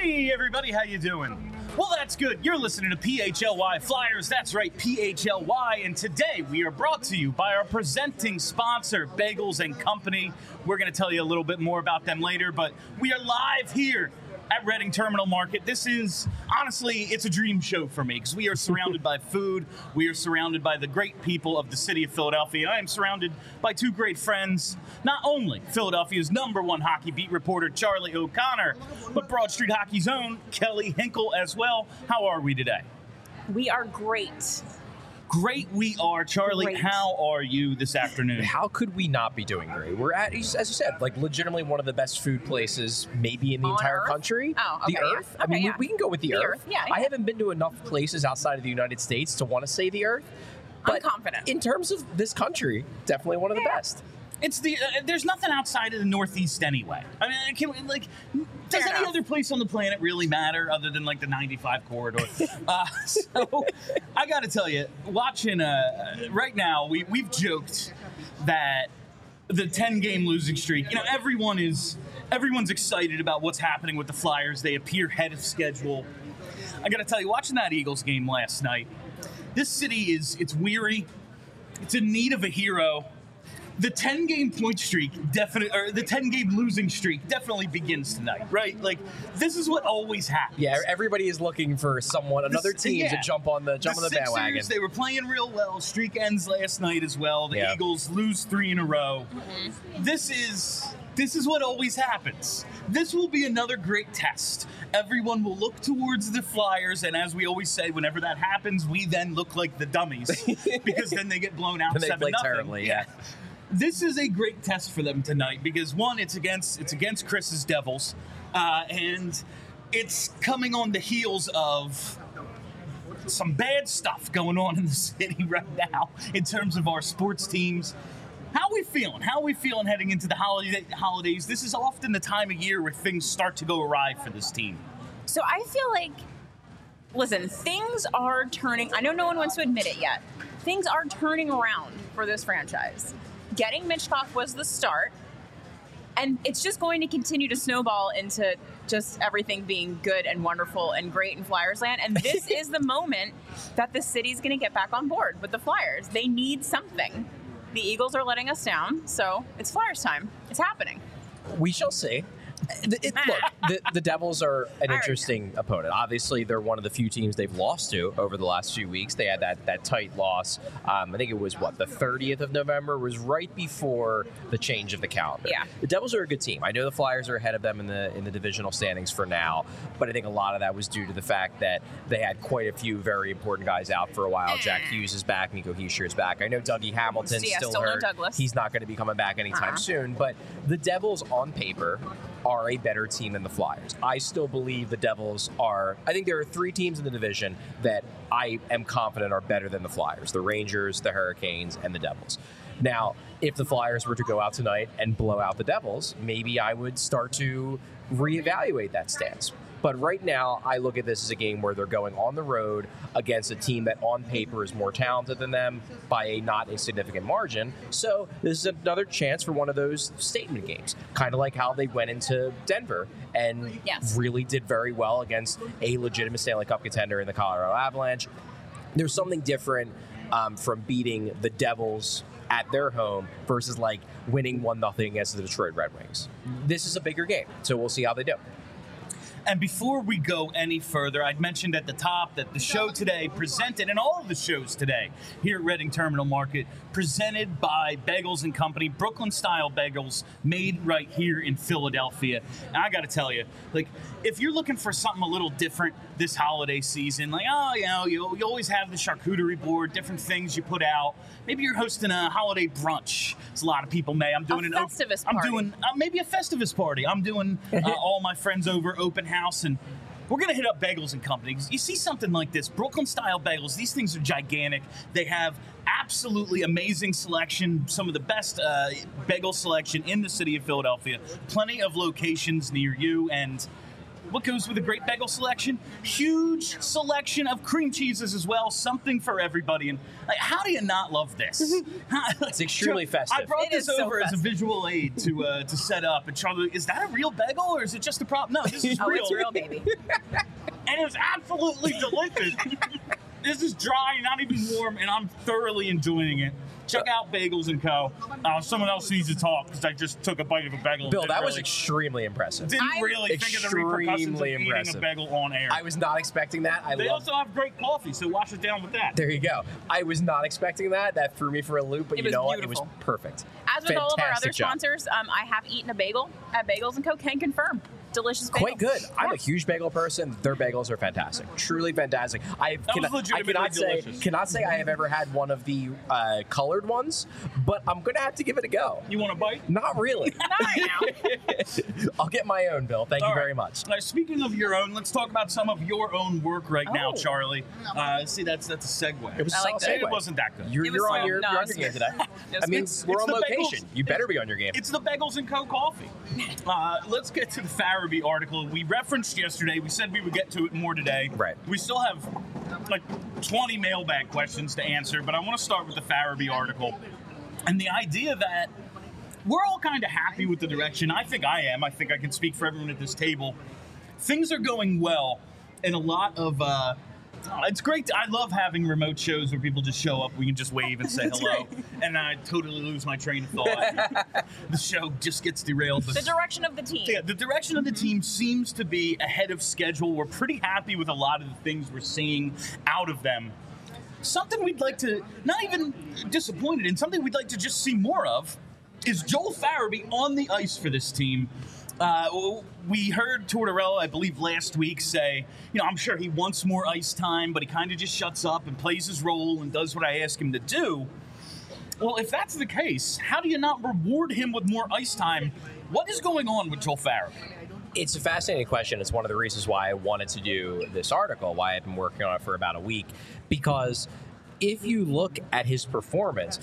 Hey everybody, how you doing? Well, that's good. You're listening to PHLY Flyers. That's right, PHLY. And today we are brought to you by our presenting sponsor, Bagels & Company. We're going to tell you a little bit more about them later, but we are live here at Reading Terminal Market. This is, honestly, it's a dream show for me because we are surrounded by food. We are surrounded by the great people of the city of Philadelphia. I am surrounded by two great friends, not only Philadelphia's #1 hockey beat reporter, Charlie O'Connor, but Broad Street Hockey's own Kelly Hinkle as well. How are we today? We are great. Great we are. Charlie, Great. How are you this afternoon? How could we not be doing great? We're at, as you said, like legitimately one of the best food places maybe in the On entire Earth? country. Oh, okay, the yeah. Earth. I mean, Okay, yeah. we can go with the The Earth. Earth, yeah, I yeah. haven't been to enough places outside of the United States to want to say the Earth. I'm But confident. in terms of this country, definitely one of the Yeah. best. It's the there's nothing outside of the Northeast anyway. I mean, does Fair any enough. other place on the planet really matter other than like the 95 corridor? So I got to tell you, watching right now, we've joked that the 10-game losing streak. You know, everyone's excited about what's happening with the Flyers. They appear ahead of schedule. I got to tell you, watching that Eagles game last night, this city it's weary. It's in need of a hero. The 10-game point streak or the 10-game losing streak definitely begins tonight, right? Like, this is what always happens. Yeah, everybody is looking for another team to jump on the Sixers, bandwagon. They were playing real well. Streak ends last night as well. The Yeah. Eagles lose 3 in a row. This is what always happens. This will be another great test. Everyone will look towards the Flyers, and as we always say, whenever that happens, we then look like the dummies because then they get blown out And they 7-0. play terribly, yeah. This is a great test for them tonight because one, it's against Chris's Devils, and it's coming on the heels of some bad stuff going on in the city right now in terms of our sports teams. How are we feeling? How are we feeling heading into the holidays? This is often the time of year where things start to go awry for this team. So I feel like, listen, things are turning. I know no one wants to admit it yet. Things are turning around for this franchise. Getting Mitchcock was the start, and it's just going to continue to snowball into just everything being good and wonderful and great in Flyers land. And this is the moment that the city's going to get back on board with the Flyers. They need something. The Eagles are letting us down, so it's Flyers time. It's happening. We shall see. Look, the Devils are an interesting opponent. Obviously, they're one of the few teams they've lost to over the last few weeks. They had that tight loss. I think it was, the 30th of November was right before the change of the calendar. Yeah. The Devils are a good team. I know the Flyers are ahead of them in the divisional standings for now, but I think a lot of that was due to the fact that they had quite a few very important guys out for a while. Jack Hughes is back. Nico Hischier is back. I know Dougie Hamilton's still no hurt. Douglas. He's not going to be coming back anytime soon, but the Devils on paper are a better team than the Flyers. I still believe the Devils are. I think there are 3 teams in the division that I am confident are better than the Flyers: the Rangers, the Hurricanes, and the Devils. Now, if the Flyers were to go out tonight and blow out the Devils, maybe I would start to reevaluate that stance. But right now, I look at this as a game where they're going on the road against a team that on paper is more talented than them by a not insignificant margin. So this is another chance for one of those statement games, kind of like how they went into Denver and really did very well against a legitimate Stanley Cup contender in the Colorado Avalanche. There's something different from beating the Devils at their home versus like winning 1-0 against the Detroit Red Wings. This is a bigger game, so we'll see how they do. And before we go any further, I'd mentioned at the top that the show today presented, and all of the shows today here at Reading Terminal Market, presented by Bagels & Company, Brooklyn-style bagels made right here in Philadelphia. And I got to tell you, like, if you're looking for something a little different this holiday season, like, you always have the charcuterie board, different things you put out. Maybe you're hosting a holiday brunch, as a lot of people may. I'm doing Festivus party. I'm doing maybe a Festivus party. I'm doing all my friends over open house, and we're going to hit up Bagels & Company. You see something like this, Brooklyn-style bagels, these things are gigantic. They have absolutely amazing selection, some of the best bagel selection in the city of Philadelphia, plenty of locations near you, and what goes with a great bagel selection? Huge selection of cream cheeses as well, something for everybody. And like, how do you not love this? It's extremely festive. I brought It this is so over as a festive. visual aid to set up. And Charlie, is that a real bagel or is it just a prop? No, this is Oh, real. it's real, baby. And it was absolutely delicious. This is dry, not even warm, and I'm thoroughly enjoying it. Check out Bagels & Co. Someone else needs to talk because I just took a bite of a bagel. Bill, and that didn't was really- extremely impressive. Didn't I'm really think of the repercussions of extremely eating impressive. a bagel on air. I was not expecting that. They also have great coffee, so wash it down with that. There you go. I was not expecting that. That threw me for a loop, but It you was know what? It was beautiful. perfect. As with all of our other Fantastic job. sponsors, I have eaten a bagel at Bagels & Co. Can confirm. Delicious bagel. Quite good. I'm a huge bagel person. Their bagels are fantastic. Truly fantastic. I was legitimately delicious. cannot say I have ever had one of the colored ones, but I'm going to have to give it a go. You want a bite? Not really. Not right now. I'll get my own, Bill. Thank you All right. very much. Now, speaking of your own, let's talk about some of your own work right now, Oh. Charlie. See, that's a segue. It was a I like solid that. It segue. wasn't that good. You're, It was you're on solid. your, No, you're on it's your game good. today. It's I mean, good. we're It's on the location. bagels. You better be on your game. It's the Bagels & Co. coffee. Let's get to the Farabee article. We referenced yesterday. We said we would get to it more today. Right. We still have like 20 mailbag questions to answer, but I want to start with the Farabee article. And the idea that we're all kind of happy with the direction. I think I am. I think I can speak for everyone at this table. Things are going well in a lot of... it's great. I love having remote shows where people just show up. We can just wave and say hello. And I totally lose my train of thought. The show just gets derailed. The direction of the team. Yeah, the direction of the team seems to be ahead of schedule. We're pretty happy with a lot of the things we're seeing out of them. Something we'd like to, not even disappointed in, something we'd like to just see more of is Joel Farabee on the ice for this team. We heard Tortorella, I believe, last week say, I'm sure he wants more ice time, but he kind of just shuts up and plays his role and does what I ask him to do. Well, if that's the case, how do you not reward him with more ice time? What is going on with Joel Farabee? It's a fascinating question. It's one of the reasons why I wanted to do this article, why I've been working on it for about a week. Because if you look at his performance,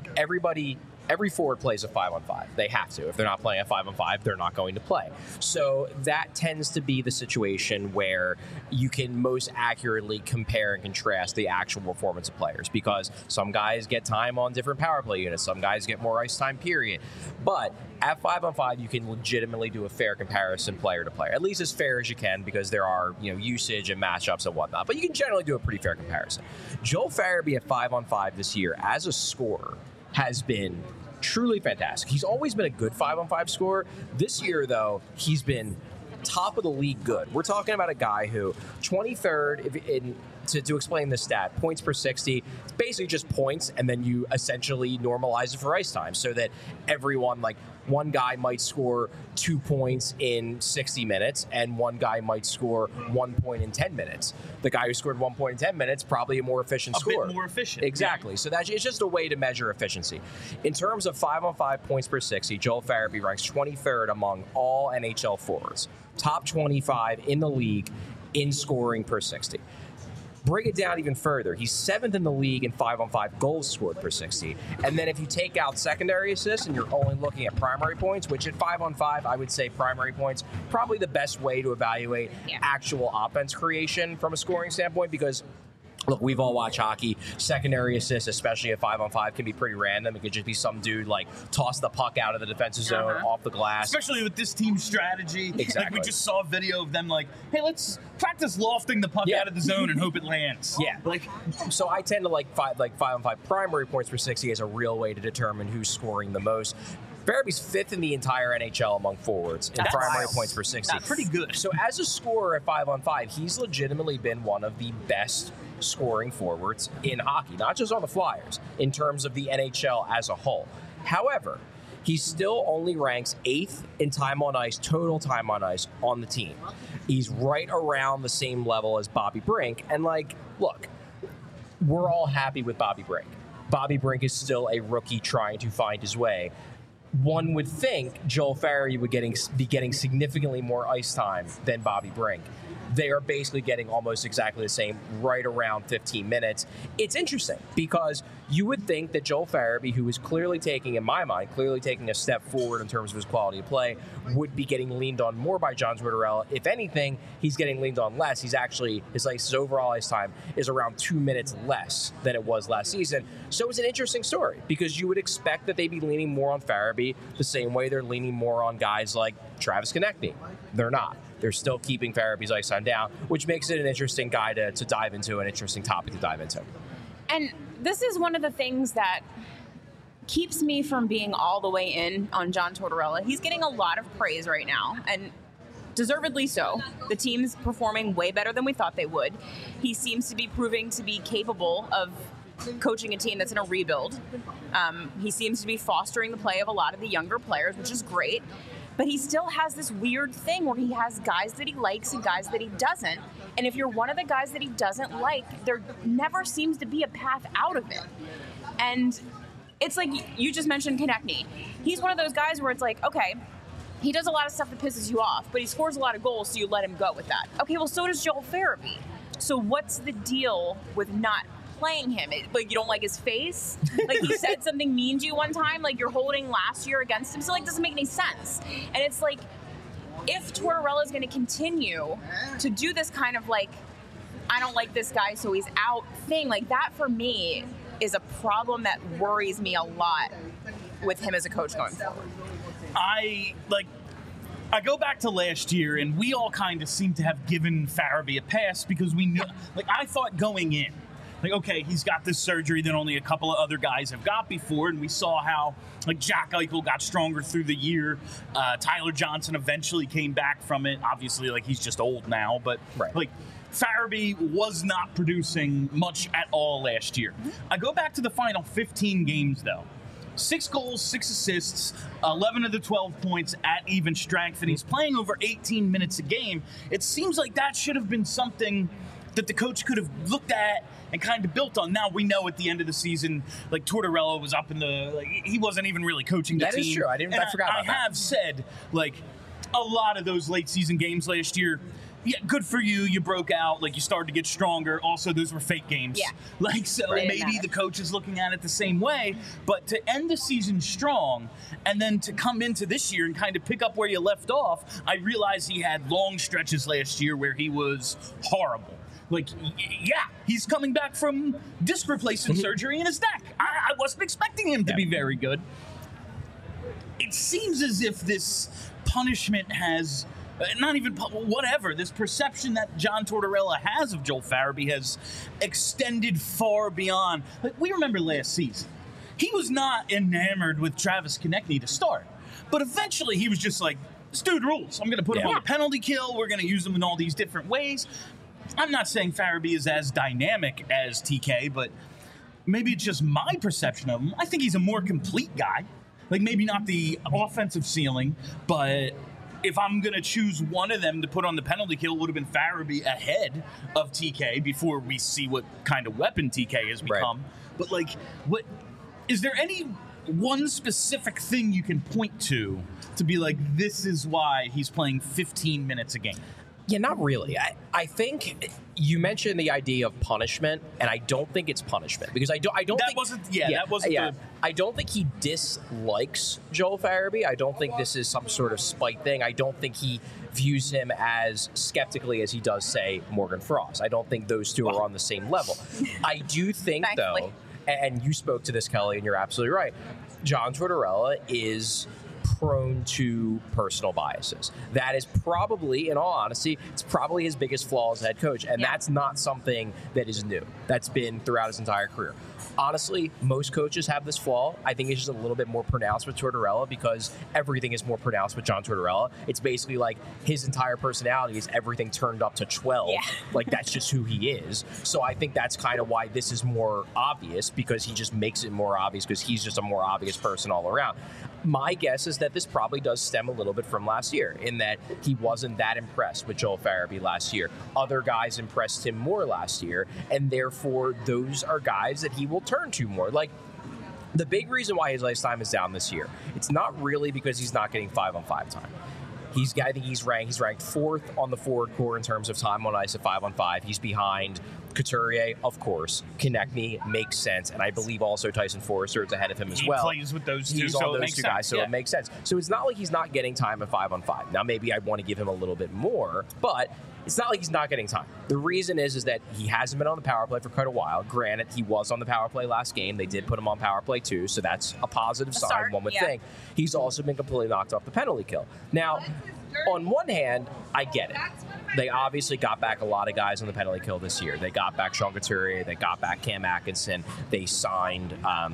every forward plays a 5-on-5. They have to. If they're not playing a 5-on-5, they're not going to play. So that tends to be the situation where you can most accurately compare and contrast the actual performance of players, because some guys get time on different power play units, some guys get more ice time, period. But at 5-on-5, you can legitimately do a fair comparison player to player, at least as fair as you can, because there are usage and matchups and whatnot. But you can generally do a pretty fair comparison. Joel Farabee at 5-on-5 this year as a scorer has been truly fantastic. He's always been a good 5-on-5 scorer. This year, though, he's been top of the league good. We're talking about a guy who 23rd to explain this stat, points per 60, it's basically just points, and then you essentially normalize it for ice time so that everyone, like one guy might score 2 points in 60 minutes, and one guy might score 1 point in 10 minutes. The guy who scored 1 point in 10 minutes, probably a more efficient scorer. A bit more efficient. Exactly. So it's just a way to measure efficiency. In terms of 5-on-5 points per 60, Joel Farabee ranks 23rd among all NHL forwards. Top 25 in the league in scoring per 60. Break it down even further. He's 7th in the league in 5-on-5 goals scored per 60. And then if you take out secondary assists and you're only looking at primary points, which at 5-on-5, I would say primary points, probably the best way to evaluate actual offense creation from a scoring standpoint, because look, we've all watched hockey. Secondary assists, especially at 5-on-5, can be pretty random. It could just be some dude like toss the puck out of the defensive zone off the glass. Especially with this team's strategy. Exactly. Like we just saw a video of them like, hey, let's practice lofting the puck out of the zone and hope it lands. Yeah. So I tend to like 5-on-5 primary points per 60 as a real way to determine who's scoring the most. Farabee's 5th in the entire NHL among forwards in primary points per 60. That's pretty good. So as a scorer at 5-on-5, he's legitimately been one of the best scoring forwards in hockey, not just on the Flyers, in terms of the NHL as a whole. However, he still only ranks 8th in time on ice, total time on ice on the team. He's right around the same level as Bobby Brink. And look, we're all happy with Bobby Brink. Bobby Brink is still a rookie trying to find his way. One would think Joel Farabee would be getting significantly more ice time than Bobby Brink. they are basically getting almost exactly the same, right around 15 minutes. It's interesting because you would think that Joel Farabee, who is clearly taking, in my mind, a step forward in terms of his quality of play, would be getting leaned on more by John Tortorella. If anything, he's getting leaned on less. He's actually, his overall ice time is around 2 minutes less than it was last season. So it's an interesting story because you would expect that they'd be leaning more on Farabee the same way they're leaning more on guys like Travis Konechny. They're not. They're still keeping Farabee's ice time down, which makes it an interesting guy to dive into, an interesting topic to dive into. And this is one of the things that keeps me from being all the way in on John Tortorella. He's getting a lot of praise right now, and deservedly so. The team's performing way better than we thought they would. He seems to be proving to be capable of coaching a team that's in a rebuild. He seems to be fostering the play of a lot of the younger players, which is great. But he still has this weird thing where he has guys that he likes and guys that he doesn't. And if you're one of the guys that he doesn't like, there never seems to be a path out of it. And it's like you just mentioned Konechny. He's one of those guys where it's like, okay, he does a lot of stuff that pisses you off, but he scores a lot of goals, so you let him go with that. Okay, well, so does Joel Farabee. So what's the deal with not playing him? Like, you don't like his face? Like, he said something mean to you one time? Like, you're holding last year against him? So, like, it doesn't make any sense. And it's like, if Tortorella is going to continue to do this kind of, like, I don't like this guy, so he's out thing, like, that for me is a problem that worries me a lot with him as a coach going forward. I go back to last year, and we all kind of seem to have given Farabee a pass because we knew, like, I thought going in, like, okay, he's got this surgery that only a couple of other guys have got before, and we saw how, like, Jack Eichel got stronger through the year. Tyler Johnson eventually came back from it. Obviously, like, he's just old now, but, like, Farabee was not producing much at all last year. I go back to the final 15 games, though. 6 goals, 6 assists, 11 of the 12 points at even strength, and he's playing over 18 minutes a game. It seems like that should have been something that the coach could have looked at and kind of built on. Now we know at the end of the season, like, Tortorella was up in the, like, he wasn't even really coaching the team. That is true. I forgot about that. I have said, like, a lot of those late season games last year, yeah, good for you. You broke out. Like, you started to get stronger. Also, those were fake games. Yeah. Like, so maybe the coach is looking at it the same way. But to end the season strong and then to come into this year and kind of pick up where you left off, I realized he had long stretches last year where he was horrible. Like, yeah, he's coming back from disc replacement surgery in his neck. I wasn't expecting him to be very good. It seems as if this punishment has... not even whatever. This perception that John Tortorella has of Joel Farabee has extended far beyond. Like, we remember last season, he was not enamored with Travis Konechny to start, but eventually he was just like, this dude rules. I'm going to put him on the penalty kill. We're going to use him in all these different ways. I'm not saying Farabee is as dynamic as TK, but maybe it's just my perception of him. I think he's a more complete guy. Like, maybe not the offensive ceiling, but if I'm going to choose one of them to put on the penalty kill, it would have been Farabee ahead of TK before we see what kind of weapon TK has become. Right. But, like, what is there any one specific thing you can point to be like, this is why he's playing 15 minutes a game? Yeah, not really. I think you mentioned the idea of punishment, and I don't think it's punishment because I don't think I don't think he dislikes Joel Farabee. I don't think this is some sort of spite thing. I don't think he views him as skeptically as he does, say, Morgan Frost. I don't think those two are on the same level. I do think, though, and you spoke to this, Kelly, and you're absolutely right, John Tortorella is prone to personal biases. That is probably, in all honesty, it's probably his biggest flaw as head coach, and that's not something that is new. That's been throughout his entire career. Honestly, most coaches have this flaw. I think it's just a little bit more pronounced with Tortorella because everything is more pronounced with John Tortorella. It's basically like his entire personality is everything turned up to 12. Yeah. Like, that's just who he is. So I think that's kind of why this is more obvious, because he just makes it more obvious because he's just a more obvious person all around. My guess is that this probably does stem a little bit from last year, in that he wasn't that impressed with Joel Farabee last year. Other guys impressed him more last year, and therefore those are guys that he will turn to more. Like, the big reason why his ice time is down this year, it's not really because he's not getting 5-on-5 time. I think he's ranked fourth on the forward core in terms of time on ice at 5-on-5. He's behind Couturier, of course. Konechny makes sense, and I believe also Tyson Forrester is ahead of him as well. He plays with those two, he's so on it those makes two sense. guys, so it makes sense. So it's not like he's not getting time at 5-on-5. Now maybe I want to give him a little bit more, but it's not like he's not getting time. The reason is that he hasn't been on the power play for quite a while. Granted, he was on the power play last game. They did put him on power play too, so that's a positive sign, start, one would yeah. think. He's also been completely knocked off the penalty kill. Now, on one hand, I get it. They obviously got back a lot of guys on the penalty kill this year. They got back Sean Couturier. They got back Cam Atkinson. They signed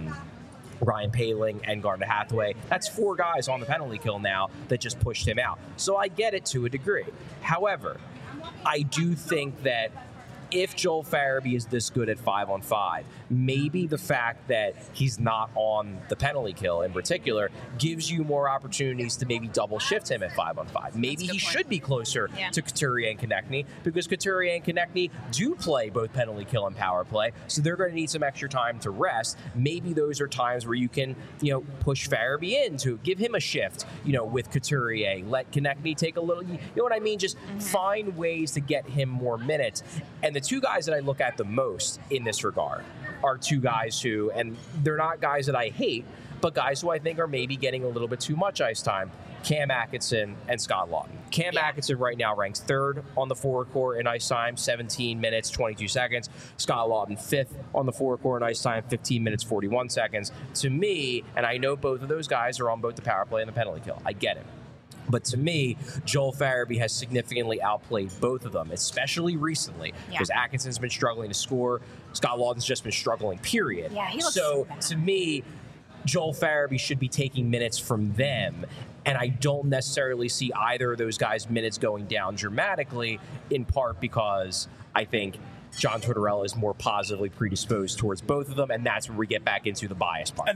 Ryan Poehling and Garnet Hathaway. That's 4 guys on the penalty kill now that just pushed him out. So I get it to a degree. However, I do think that if Joel Farabee is this good at 5-on-5, maybe the fact that he's not on the penalty kill in particular gives you more opportunities to maybe double shift him at 5-on-5. Maybe he should be closer to Couturier and Konechny, because Couturier and Konechny do play both penalty kill and power play, so they're going to need some extra time to rest. Maybe those are times where you can, push Farabee in to give him a shift, with Couturier. Let Konechny take a little, you know what I mean? Just find ways to get him more minutes. And the 2 guys that I look at the most in this regard are 2 guys who, and they're not guys that I hate, but guys who I think are maybe getting a little bit too much ice time: Cam Atkinson and Scott Laughton. Cam Atkinson right now ranks 3rd on the forward core in ice time, 17 minutes, 22 seconds. Scott Laughton 5th on the forward core in ice time, 15 minutes, 41 seconds. To me, and I know both of those guys are on both the power play and the penalty kill. I get it. But to me, Joel Farabee has significantly outplayed both of them, especially recently, because Atkinson's been struggling to score. Scott Laughton's just been struggling, period. Yeah, he looks so bad. to me, Joel Farabee should be taking minutes from them, and I don't necessarily see either of those guys' minutes going down dramatically, in part because I think John Tortorella is more positively predisposed towards both of them, and that's where we get back into the bias part.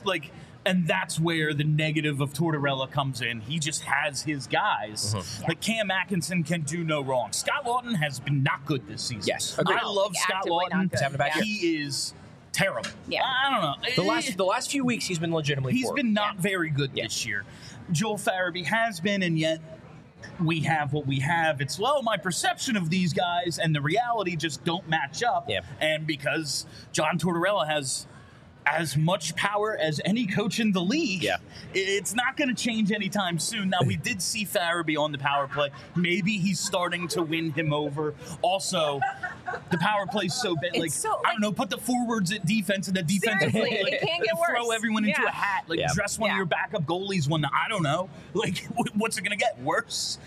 And that's where the negative of Tortorella comes in. He just has his guys. Like Cam Atkinson can do no wrong. Scott Laughton has been not good this season. Yes, agreed. I love Scott Laughton. He is terrible. Yeah. I don't know. The last few weeks, he's been legitimately He's poor. been not very good this year. Joel Farabee has been, and yet we have what we have. It's, my perception of these guys and the reality just don't match up. Yeah. And because John Tortorella has as much power as any coach in the league, it's not going to change anytime soon. Now, we did see Farabee on the power play. Maybe he's starting to win him over. Also, the power play's so bad. I don't know, put the forwards at defense and the defensive Seriously, it can't get worse. Throw everyone into a hat. Dress one of your backup goalies one. I don't know. What's it going to get? Worse?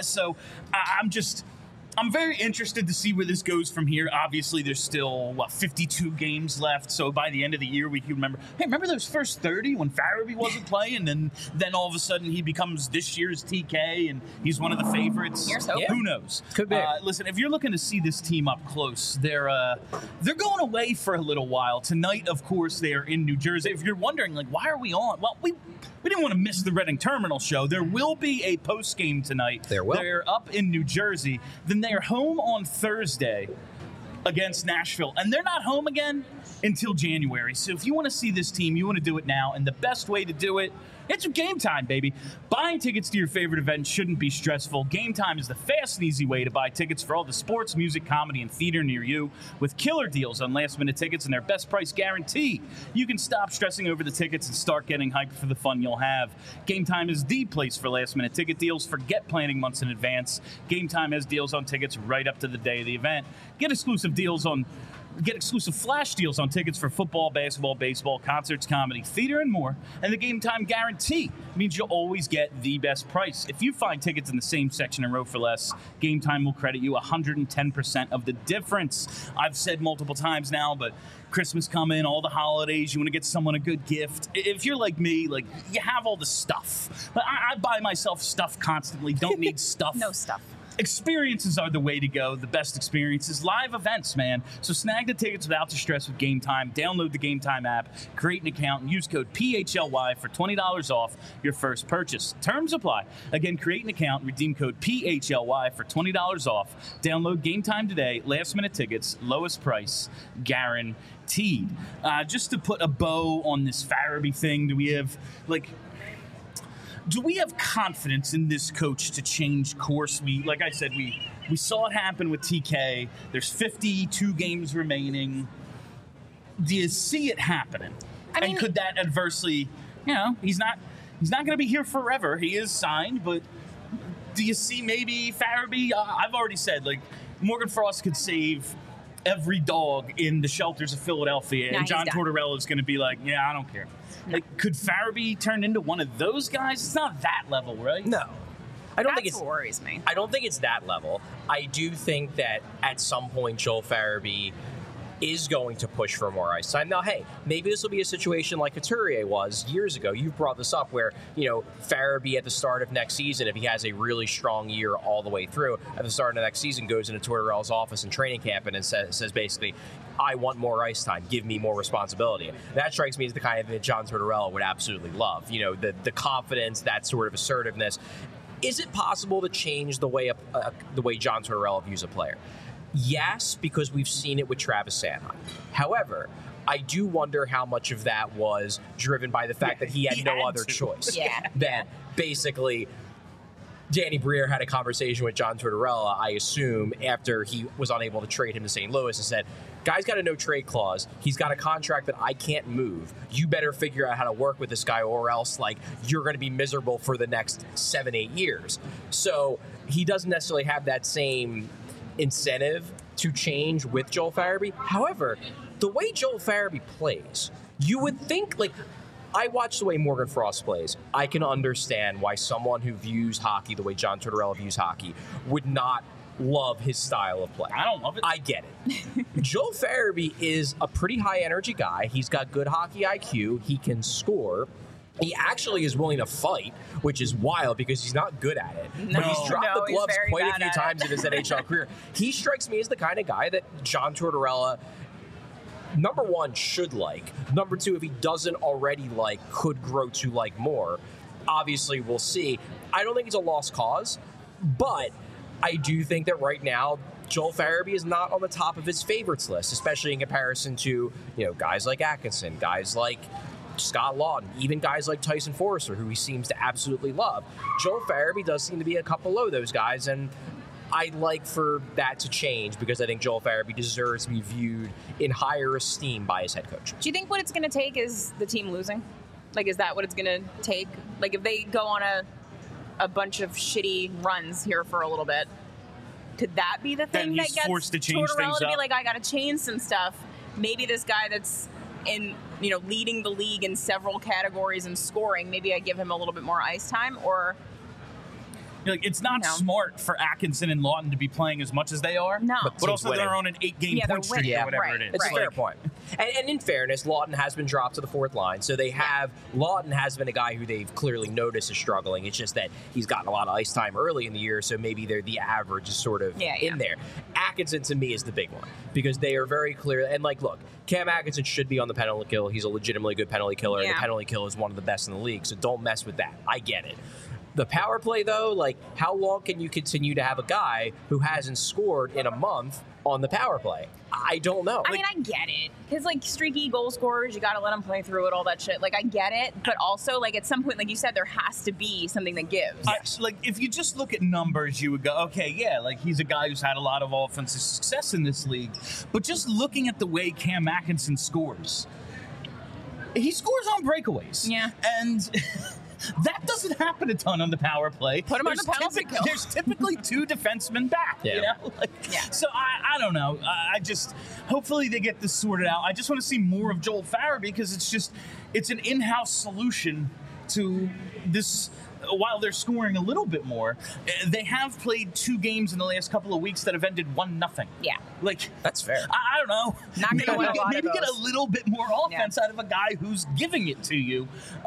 I'm very interested to see where this goes from here. Obviously, there's still, 52 games left. So by the end of the year, we can remember those first 30 when Farabee wasn't playing, and then all of a sudden he becomes this year's TK, and he's one of the favorites. Here's hope. Who knows? Could be. Listen, if you're looking to see this team up close, they're going away for a little while. Tonight, of course, they are in New Jersey. If you're wondering, why are we on? Well, we didn't want to miss the Reading Terminal show. There will be a post game tonight. There will. They're up in New Jersey. Then they're home on Thursday against Nashville. And they're not home again until January. So if you want to see this team, you want to do it now. And the best way to do it, it's Game Time, baby. Buying tickets to your favorite event shouldn't be stressful. Game Time is the fast and easy way to buy tickets for all the sports, music, comedy, and theater near you, with killer deals on last-minute tickets and their best price guarantee. You can stop stressing over the tickets and start getting hyped for the fun you'll have. Game Time is the place for last-minute ticket deals. Forget planning months in advance. Game Time has deals on tickets right up to the day of the event. Get exclusive flash deals on tickets for football, basketball, baseball, concerts, comedy, theater, and more. And the Game Time guarantee means you'll always get the best price. If you find tickets in the same section and row for less, Game Time will credit you 110% of the difference. I've said multiple times now, but Christmas coming, all the holidays, you want to get someone a good gift. If you're like me, you have all the stuff. But I buy myself stuff constantly. Don't need stuff. No stuff. Experiences are the way to go. The best experiences, live events, man. So snag the tickets without the stress with Game Time. Download the Game Time app, create an account, and use code PHLY for $20 off your first purchase. Terms apply. Again, create an account, redeem code PHLY for $20 off. Download Game Time today. Last minute tickets, lowest price, guaranteed. Just to put a bow on this Farabee thing, do we have do we have confidence in this coach to change course? Like I said, we saw it happen with TK. There's 52 games remaining. Do you see it happening? And could that adversely, he's not going to be here forever. He is signed, but do you see maybe Farabee? I've already said, like, Morgan Frost could save every dog in the shelters of Philadelphia, and John Tortorella is going to be like, yeah, I don't care. No. Like, could Farabee turn into one of those guys? It's not that level, right? No. That's what worries me. I don't think it's that level. I do think that at some point Joel Farabee is going to push for more ice time. Now, hey, maybe this will be a situation like Couturier was years ago. You've brought this up where, Farabee at the start of next season, if he has a really strong year all the way through, at the start of next season goes into Tortorella's office in training camp and says basically, I want more ice time. Give me more responsibility. That strikes me as the kind of thing that John Tortorella would absolutely love. The confidence, that sort of assertiveness. Is it possible to change the way John Tortorella views a player? Yes, because we've seen it with Travis Sanheim. However, I do wonder how much of that was driven by the fact that he had no other choice. That basically Danny Briere had a conversation with John Tortorella, I assume, after he was unable to trade him to St. Louis and said, guy's got a no-trade clause. He's got a contract that I can't move. You better figure out how to work with this guy or else, you're going to be miserable for the next 7-8 years. So he doesn't necessarily have that same incentive to change with Joel Farabee. However, the way Joel Farabee plays, you would think, I watch the way Morgan Frost plays. I can understand why someone who views hockey the way John Tortorella views hockey would not love his style of play. I don't love it. I get it. Joel Farabee is a pretty high-energy guy. He's got good hockey IQ. He can score. He actually is willing to fight, which is wild because he's not good at it. No, but he's dropped the gloves quite a few times in his NHL career. He strikes me as the kind of guy that John Tortorella, number one, should like. Number two, if he doesn't already like, could grow to like more. Obviously, we'll see. I don't think it's a lost cause, but I do think that right now, Joel Farabee is not on the top of his favorites list, especially in comparison to, guys like Atkinson, guys like Scott Laughton, even guys like Tyson Forrester, who he seems to absolutely love. Joel Farabee does seem to be a couple below those guys, and I'd like for that to change because I think Joel Farabee deserves to be viewed in higher esteem by his head coach. Do you think what it's going to take is the team losing? Is that what it's going to take? If they go on a bunch of shitty runs here for a little bit, could that be the thing that gets forced to change Tortorella to be up? like, I got to change some stuff? Maybe this guy that's in, leading the league in several categories and scoring, maybe I give him a little bit more ice time, or it's not smart for Atkinson and Laughton to be playing as much as they are. No. But also they're on an 8-game point streak or whatever it is. It's a fair point. And in fairness, Laughton has been dropped to the fourth line. So Laughton has been a guy who they've clearly noticed is struggling. It's just that he's gotten a lot of ice time early in the year, so maybe the average is sort of in there. Atkinson, to me, is the big one because they are very clear. And, look, Cam Atkinson should be on the penalty kill. He's a legitimately good penalty killer. The penalty kill is one of the best in the league, so don't mess with that. I get it. The power play, though, how long can you continue to have a guy who hasn't scored in a month on the power play? I don't know. I get it. Because, streaky goal scorers, you got to let them play through it, all that shit. I get it. But also, at some point, like you said, there has to be something that gives. If you just look at numbers, you would go, okay, he's a guy who's had a lot of offensive success in this league. But just looking at the way Cam Atkinson scores, he scores on breakaways. Yeah. And that doesn't happen a ton on the power play. Put him on the penalty kill. There's typically two defensemen back, So I don't know. Hopefully they get this sorted out. I just want to see more of Joel Farabee because it's an in-house solution to this. While they're scoring a little bit more, they have played 2 games in the last couple of weeks that have ended 1-0. Yeah. That's fair. I don't know. Not gonna win a lot maybe of get a those. little bit more offense out of a guy who's giving it to you.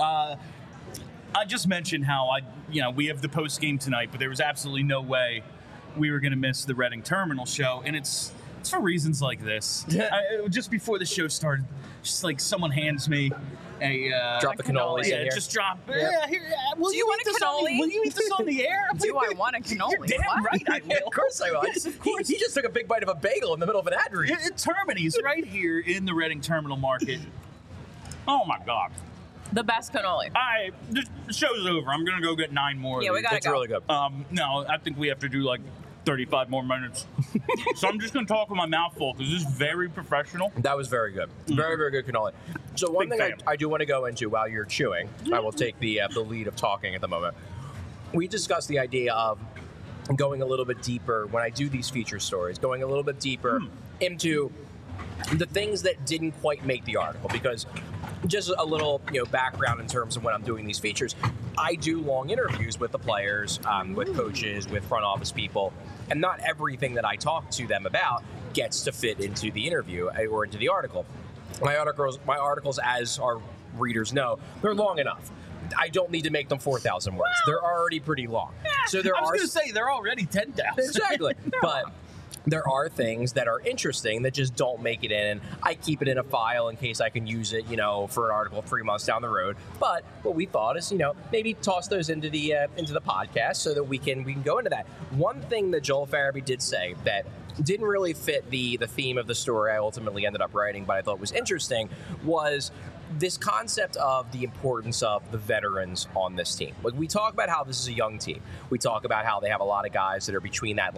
I just mentioned how we have the post game tonight, but there was absolutely no way we were going to miss the Reading Terminal show, and it's for reasons like this. Just before the show started, just someone hands me a drop the cannolis in here. Just drop. Do you want a cannoli? Will you eat this on the air? Do I want a cannoli? You're damn right I will. Of course I will. Yes, of course. He just took a big bite of a bagel in the middle of an ad read. Termini's right here in the Reading Terminal Market. Oh my God. The best cannoli. The show's over. I'm gonna go get 9 more. Yeah, of we these. gotta It's go. really good. No, I think we have to do like 35 more minutes. So I'm just gonna talk with my mouth full because this is very professional. That was very good. Very, very good cannoli. So one Big thing fan. I do want to go into while you're chewing, I will take the lead of talking at the moment. We discussed the idea of going a little bit deeper when I do these feature stories, going a little bit deeper into the things that didn't quite make the article, because just a little background in terms of when I'm doing these features, I do long interviews with the players, with coaches, with front office people, and not everything that I talk to them about gets to fit into the interview or into the article. My articles, as our readers know, they're long enough. I don't need to make them 4,000 words. They're already pretty long. So there I was are gonna say they're already 10,000. exactly, but there are things that are interesting that just don't make it in, and I keep it in a file in case I can use it, for an article 3 months down the road. But what we thought is, maybe toss those into the podcast so that we can go into that. One thing that Joel Farabee did say that didn't really fit the theme of the story I ultimately ended up writing, but I thought was interesting, was this concept of the importance of the veterans on this team. Like, we talk about how this is a young team. We talk about how they have a lot of guys that are between that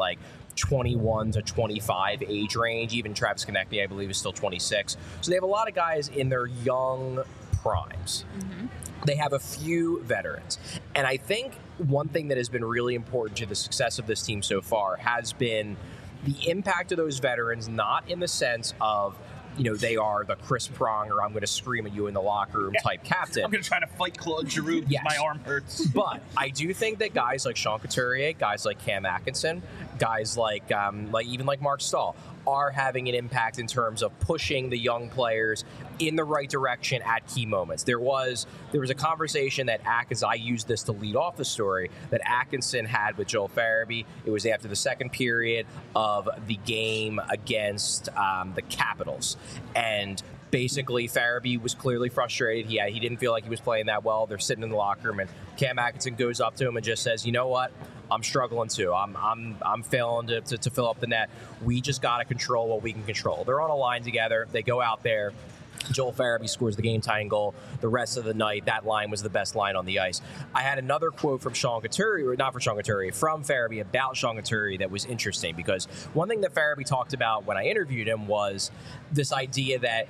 21 to 25 age range. Even Travis Konechny, I believe, is still 26. So they have a lot of guys in their young primes. Mm-hmm. They have a few veterans. And I think one thing that has been really important to the success of this team so far has been the impact of those veterans, not in the sense of they are the Chris Pronger, I'm going to scream at you in the locker room type captain. I'm going to try to fight Claude Giroux because my arm hurts. But I do think that guys like Sean Couturier, guys like Cam Atkinson, guys like Mark Stahl are having an impact in terms of pushing the young players in the right direction at key moments. There was a conversation that I used this to lead off the story, that Atkinson had with Joel Farabee. It was after the second period of the game against the Capitals. And basically, Farabee was clearly frustrated. He didn't feel like he was playing that well. They're sitting in the locker room, and Cam Atkinson goes up to him and just says, "You know what? I'm struggling too. I'm failing to fill up the net. We just got to control what we can control." They're on a line together. They go out there. Joel Farabee scores the game-tying goal. The rest of the night, that line was the best line on the ice. I had another quote from Sean Couturier, or not from Sean Couturier, from Farabee about Sean Couturier that was interesting, because one thing that Farabee talked about when I interviewed him was this idea that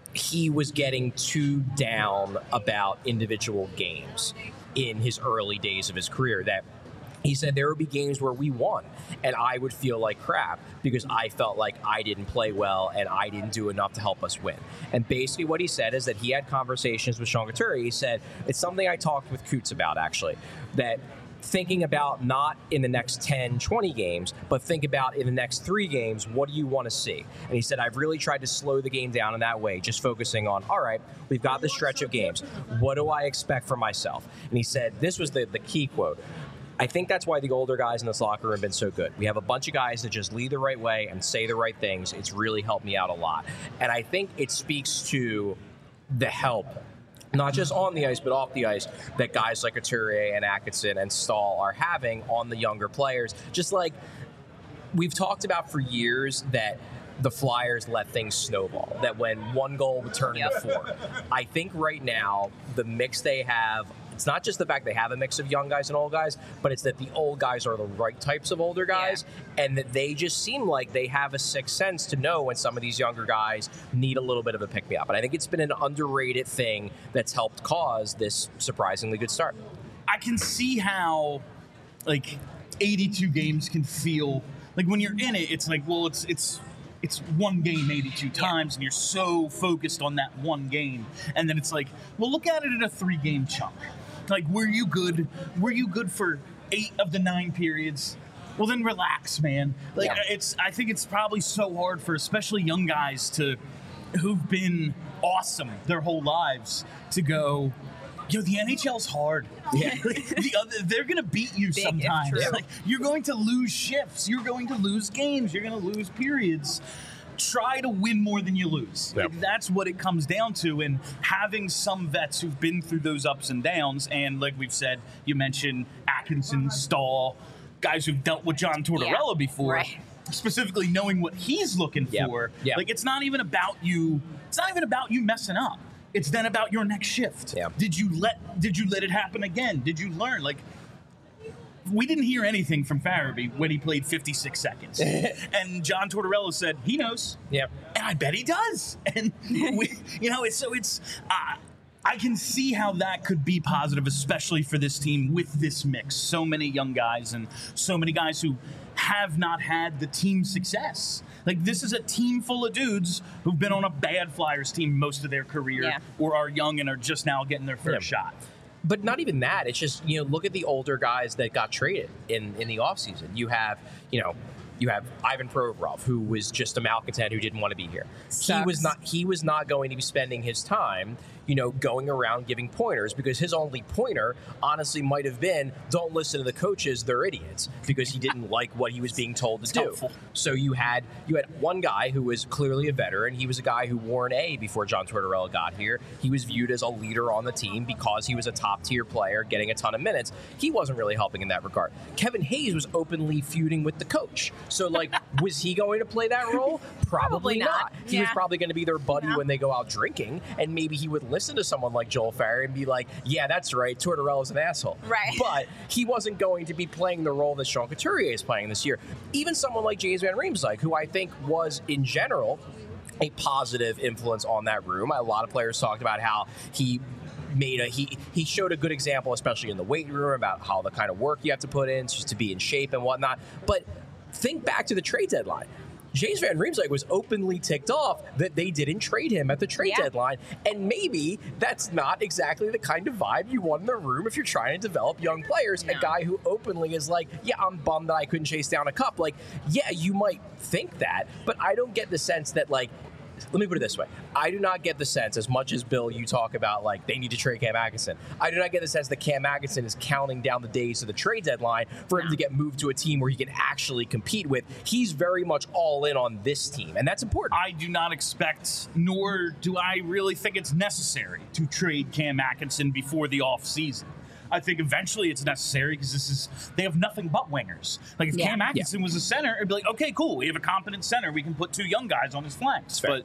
he was getting too down about individual games in his early days of his career, that he said there would be games where we won and I would feel like crap because I felt like I didn't play well and I didn't do enough to help us win. And basically what he said is that he had conversations with Sean Couturier. He said, it's something I talked with Coots about, actually, that thinking about not in the next 10, 20 games, but think about in the next 3 games, what do you want to see? And he said, I've really tried to slow the game down in that way, just focusing on, all right, we've got this stretch of games. What do I expect from myself? And he said, this was the key quote, I think that's why the older guys in this locker room have been so good. We have a bunch of guys that just lead the right way and say the right things. It's really helped me out a lot. And I think it speaks to the help, not just on the ice, but off the ice, that guys like Couturier and Atkinson and Stahl are having on the younger players. Just like we've talked about for years that the Flyers let things snowball, that when one goal would turn into 4. I think right now, the mix they have, it's not just the fact they have a mix of young guys and old guys, but it's that the old guys are the right types of older guys, and that they just seem like they have a sixth sense to know when some of these younger guys need a little bit of a pick-me-up. And I think it's been an underrated thing that's helped cause this surprisingly good start. I can see how, 82 games can feel, when you're in it, it's like, well, it's one game 82 times, and you're so focused on that one game. And then it's like, well, look at it in a 3-game chunk. Were you good? Were you good for 8 of the 9 periods? Well, then relax, man. I think it's probably so hard for especially young guys who've been awesome their whole lives to go, the NHL's hard. Yeah. They're going to beat you sometimes. You're going to lose shifts. You're going to lose games. You're going to lose periods. Try to win more than you lose. Yep. That's what it comes down to. And having some vets who've been through those ups and downs, and like we've said, you mentioned Atkinson, Stahl, guys who've dealt with John Tortorella before. Right. Specifically knowing what he's looking for. Yep. It's not even about you. It's not even about you messing up. it's then about your next shift. Yeah. Did you let it happen again? Did you learn? Like, we didn't hear anything from Farabee when he played 56 seconds. And John Tortorella said he knows. Yeah. And I bet he does. And, I can see how that could be positive, especially for this team with this mix. So many young guys and so many guys who have not had the team success. Like, this is a team full of dudes who've been on a bad Flyers team most of their career or are young and are just now getting their first shot. But not even that. It's just, look at the older guys that got traded in the offseason. You have Ivan Provorov, who was just a malcontent who didn't want to be here. Sucks. He was not going to be spending his time, going around giving pointers, because his only pointer honestly might have been, don't listen to the coaches, they're idiots, because he didn't like what he was being told to do. Helpful. So you had one guy who was clearly a veteran. He was a guy who wore an A before John Tortorella got here. He was viewed as a leader on the team because he was a top-tier player getting a ton of minutes. He wasn't really helping in that regard. Kevin Hayes was openly feuding with the coach. So, was he going to play that role? Probably not. He was probably going to be their buddy when they go out drinking, and maybe he would listen to someone like Joel Farabee and be like, yeah, that's right, Tortorella's an asshole. Right. But he wasn't going to be playing the role that Sean Couturier is playing this year. Even someone like James Van Riemsdyk, who I think was, in general, a positive influence on that room. A lot of players talked about how he showed a good example, especially in the weight room, about how the kind of work you have to put in just to be in shape and whatnot. But think back to the trade deadline. James Van Riemsdyk was openly ticked off that they didn't trade him at the trade deadline. And maybe that's not exactly the kind of vibe you want in the room if you're trying to develop young players. No. A guy who openly is like, yeah, I'm bummed that I couldn't chase down a cup. Like, yeah, you might think that, but I don't get the sense that, let me put it this way. I do not get the sense, as much as, Bill, you talk about, they need to trade Cam Atkinson. I do not get the sense that Cam Atkinson is counting down the days to the trade deadline for him to get moved to a team where he can actually compete with. He's very much all in on this team, and that's important. I do not expect, nor do I really think it's necessary to trade Cam Atkinson before the offseason. I think eventually it's necessary because they have nothing but wingers. Like, if Cam Atkinson was a center, it'd be like, okay, cool, we have a competent center. We can put two young guys on his flanks. But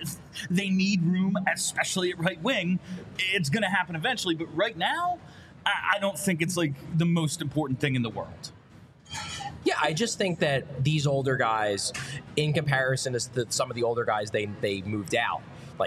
they need room, especially at right wing. It's going to happen eventually. But right now, I don't think it's the most important thing in the world. Yeah, I just think that these older guys, in comparison to some of the older guys they moved out,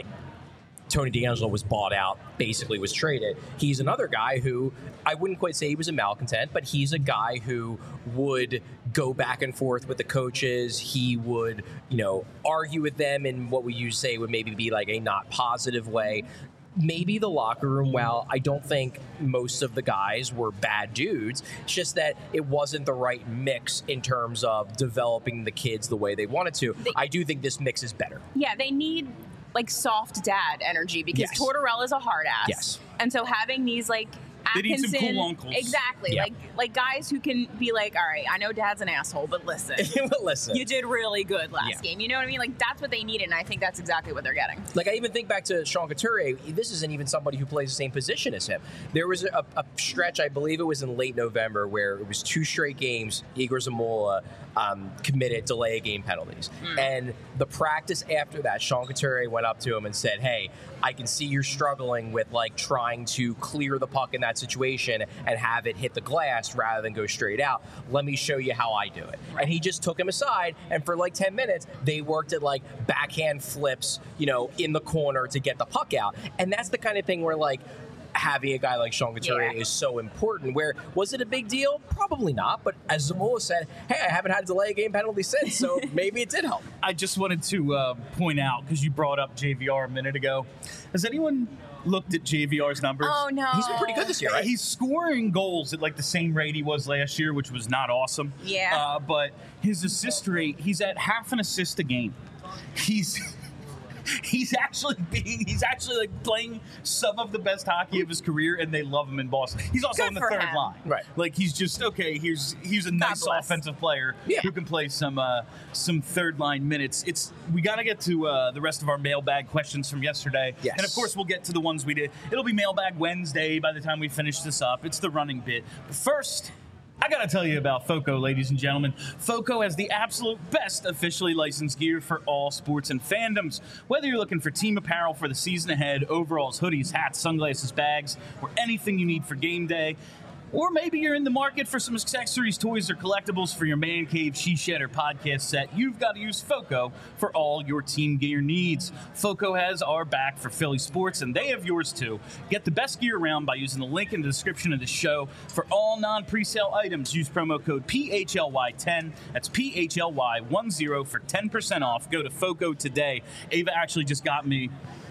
Tony DeAngelo was bought out, basically was traded. He's another guy who, I wouldn't quite say he was a malcontent, but he's a guy who would go back and forth with the coaches. He would, argue with them in what we usually say would maybe be a not positive way. Maybe the locker room, well, I don't think most of the guys were bad dudes. It's just that it wasn't the right mix in terms of developing the kids the way they wanted to. I do think this mix is better. Yeah, they need soft dad energy because Tortorella's a hard ass. Yes. And so having these They need Atkinson, some cool uncles. Exactly. Yeah. Like guys who can be all right, I know dad's an asshole, but listen. You did really good last game. You know what I mean? That's what they needed, and I think that's exactly what they're getting. I even think back to Sean Couturier. This isn't even somebody who plays the same position as him. There was a stretch, I believe it was in late November, where it was 2 straight games, Igor Zamula committed delay of game penalties. And the practice after that, Sean Couturier went up to him and said, hey, I can see you're struggling with trying to clear the puck in that situation and have it hit the glass rather than go straight out. Let me show you how I do it. Right. And he just took him aside, and for 10 minutes, they worked at backhand flips, in the corner to get the puck out. And that's the kind of thing where having a guy like Sean Couturier is so important. Where was it a big deal? Probably not. But as Zamula said, hey, I haven't had a delay game penalty since, so maybe it did help. I just wanted to point out, because you brought up JVR a minute ago, has anyone looked at JVR's numbers? Oh, no. He's been pretty good this year, right? He's scoring goals at the same rate he was last year, which was not awesome. Yeah. But his assist rate, he's at half an assist a game. He's actually playing some of the best hockey of his career, and they love him in Boston. He's also on the third line. Right. He's just, okay, he's a nice offensive player who can play some third line minutes. We got to get to the rest of our mailbag questions from yesterday. Yes. And of course we'll get to the ones we did. It'll be Mailbag Wednesday by the time we finish this up. It's the running bit. But first, I gotta tell you about FOCO, ladies and gentlemen. FOCO has the absolute best officially licensed gear for all sports and fandoms. Whether you're looking for team apparel for the season ahead, overalls, hoodies, hats, sunglasses, bags, or anything you need for game day, or maybe you're in the market for some accessories, toys, or collectibles for your man cave, she shed, or podcast set, you've got to use FOCO for all your team gear needs. FOCO has our back for Philly sports, and they have yours too. Get the best gear around by using the link in the description of the show. For all non-presale items, use promo code PHLY10. That's PHLY10 for 10% off. Go to FOCO today. Ava actually just got me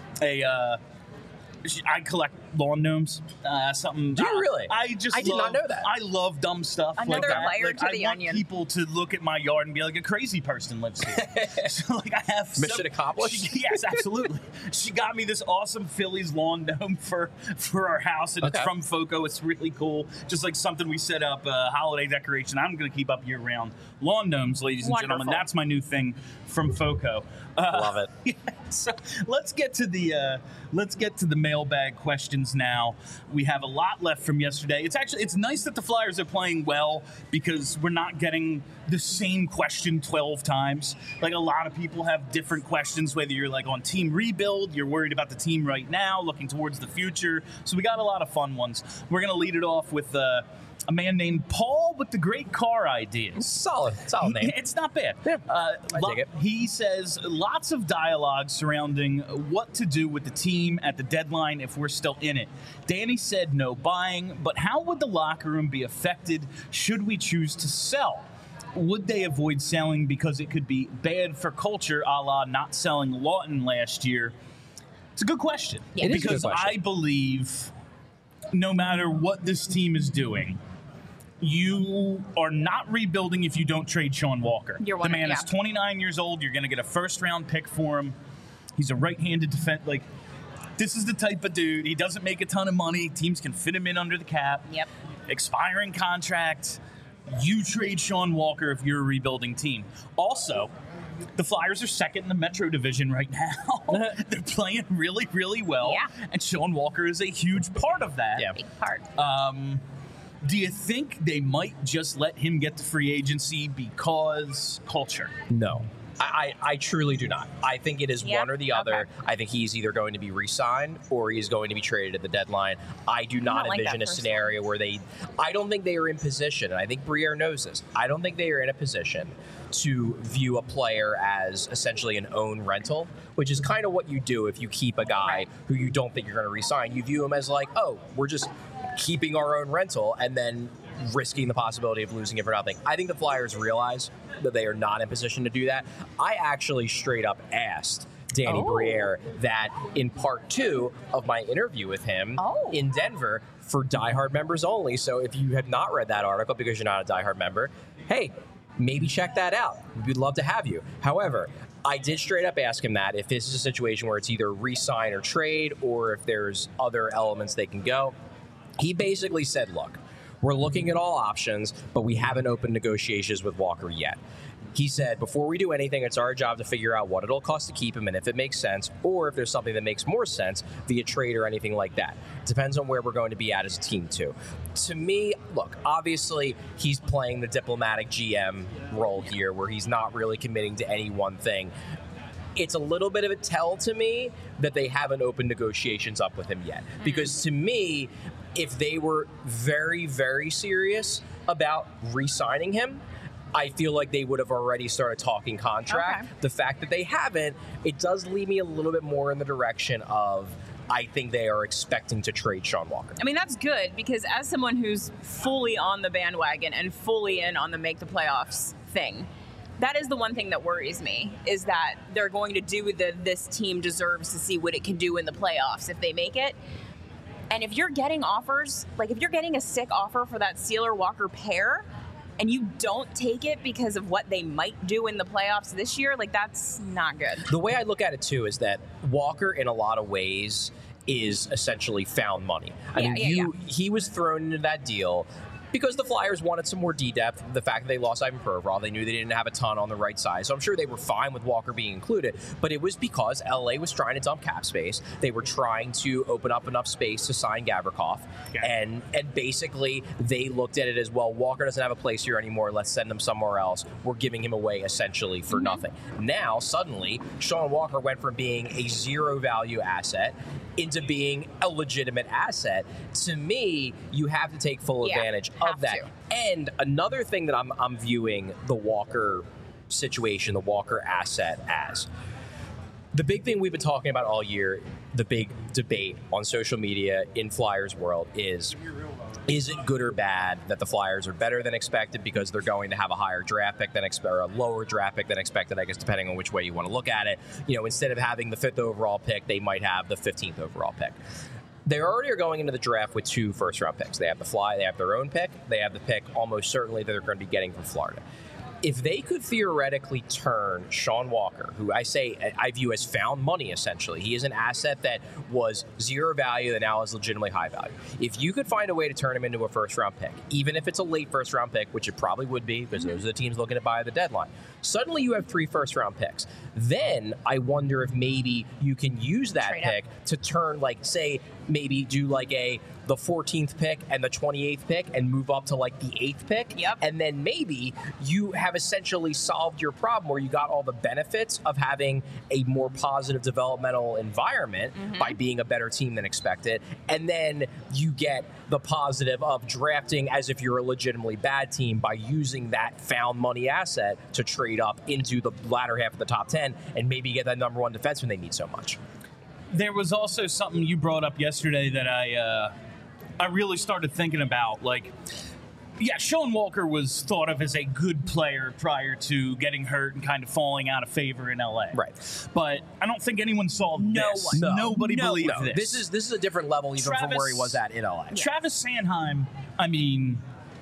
I collect lawn gnomes. Something. Do you really? I did not know that. I love dumb stuff. Another like that. layer to the I onion. want people to look at my yard and be like, a crazy person lives here. So I have mission accomplished. Yes, absolutely. She got me this awesome Phillies lawn gnome for our house, and it's from FOCO. It's really cool. Just like something we set up, holiday decoration. I'm going to keep up year round. Lawn gnomes, ladies and gentlemen. That's my new thing from FOCO. Love it. Yeah, so let's get to the mailbag questions now. We have a lot left from yesterday. It's nice that the Flyers are playing well because we're not getting the same question 12 times. Like, a lot of people have different questions, whether you're like on team rebuild, you're worried about the team right now, looking towards the future. So we got a lot of fun ones. We're going to lead it off with a man named Paul with the great car ideas. Solid name. It's not bad. Yeah, I dig it. He says lots of dialogue surrounding what to do with the team at the deadline if we're still in it. Danny said no buying, but how would the locker room be affected should we choose to sell? Would they avoid selling because it could be bad for culture, a la not selling Lawton last year? It's a good question. Yeah. It is a good Because question. I believe no matter what this team is doing, you are not rebuilding if you don't trade Sean Walker. The man is 29 years old. You're going to get a first-round pick for him. He's a right-handed defense. Like, this is the type of dude. He doesn't make a ton of money. Teams can fit him in under the cap. Yep. Expiring contract. You trade Sean Walker if you're a rebuilding team. Also, the Flyers are second in the Metro Division right now. They're playing really, really well. Yeah. And Sean Walker is a huge part of that. Yeah. Big part. Do you think they might just let him get to free agency because culture? No. I truly do not. I think it is one or the other. Okay. I think he's either going to be re-signed or he's going to be traded at the deadline. I do not envision a scenario where I don't think they are in position, and I think Briere knows this. I don't think they are in a position to view a player as essentially an own rental, which is kind of what you do if you keep a guy who you don't think you're going to re-sign. You view him as like, oh, we're just keeping our own rental and then risking the possibility of losing it for nothing. I think the Flyers realize that they are not in position to do that. I actually straight up asked Danny Briere that in part 2 of my interview with him in Denver for diehard members only. So if you have not read that article because you're not a diehard member, hey, maybe check that out. We'd love to have you. However, I did straight up ask him that if this is a situation where it's either re-sign or trade or if there's other elements they can go. He basically said, look, we're looking at all options, but we haven't opened negotiations with Walker yet. He said, before we do anything, it's our job to figure out what it'll cost to keep him and if it makes sense, or if there's something that makes more sense via trade or anything like that. It depends on where we're going to be at as a team, too. To me, look, obviously, he's playing the diplomatic GM role here, where he's not really committing to any one thing. It's a little bit of a tell to me that they haven't opened negotiations up with him yet. Because to me, if they were very, very serious about re-signing him, I feel like they would have already started talking contract. The fact that they haven't, it does lead me a little bit more in the direction of I think they are expecting to trade Sean Walker. I mean, that's good because as someone who's fully on the bandwagon and fully in on the make the playoffs thing, that is the one thing that worries me, is that they're going to do this team deserves to see what it can do in the playoffs if they make it. And if you're getting offers, like if you're getting a sick offer for that Sealer-Walker pair and you don't take it because of what they might do in the playoffs this year, like that's not good. The way I look at it too is that Walker in a lot of ways is essentially found money. I mean, he was thrown into that deal because the Flyers wanted some more D-depth. The fact that they lost Ivan Provorov, they knew they didn't have a ton on the right side. So I'm sure they were fine with Walker being included. But it was because LA was trying to dump cap space. They were trying to open up enough space to sign Gavrikov. And basically, they looked at it as, well, Walker doesn't have a place here anymore. Let's send him somewhere else. We're giving him away essentially for nothing. Now, suddenly, Sean Walker went from being a zero-value asset into being a legitimate asset. To me, you have to take full advantage of that. And another thing that I'm viewing the Walker situation, the Walker asset as, the big thing we've been talking about all year, the big debate on social media in Flyers world is it good or bad that the Flyers are better than expected because they're going to have a higher draft pick than expected, or a lower draft pick than expected, I guess, depending on which way you want to look at it. You know, instead of having the 5th overall pick, they might have the 15th overall pick. They already are going into the draft with 2 first-round picks. They have the Fly, they have their own pick, they have the pick almost certainly that they're going to be getting from Florida. If they could theoretically turn Sean Walker, who I view as found money, essentially. He is an asset that was zero value and now is legitimately high value. If you could find a way to turn him into a first-round pick, even if it's a late first-round pick, which it probably would be because those are the teams looking to buy at the deadline, suddenly you have 3 first-round picks. Then I wonder if maybe you can use that pick to turn, like, say, maybe do like the 14th pick and the 28th pick and move up to like the 8th pick. And then maybe you have essentially solved your problem where you got all the benefits of having a more positive developmental environment by being a better team than expected. And then you get the positive of drafting as if you're a legitimately bad team by using that found money asset to trade up into the latter half of the top 10 and maybe get that number 1 defenseman they need so much. There was also something you brought up yesterday that I really started thinking about. Like, yeah, Sean Walker was thought of as a good player prior to getting hurt and kind of falling out of favor in LA. Right. But I don't think anyone saw this. Nobody believed this. This is a different level even from where he was at in LA. Travis Sanheim, I mean,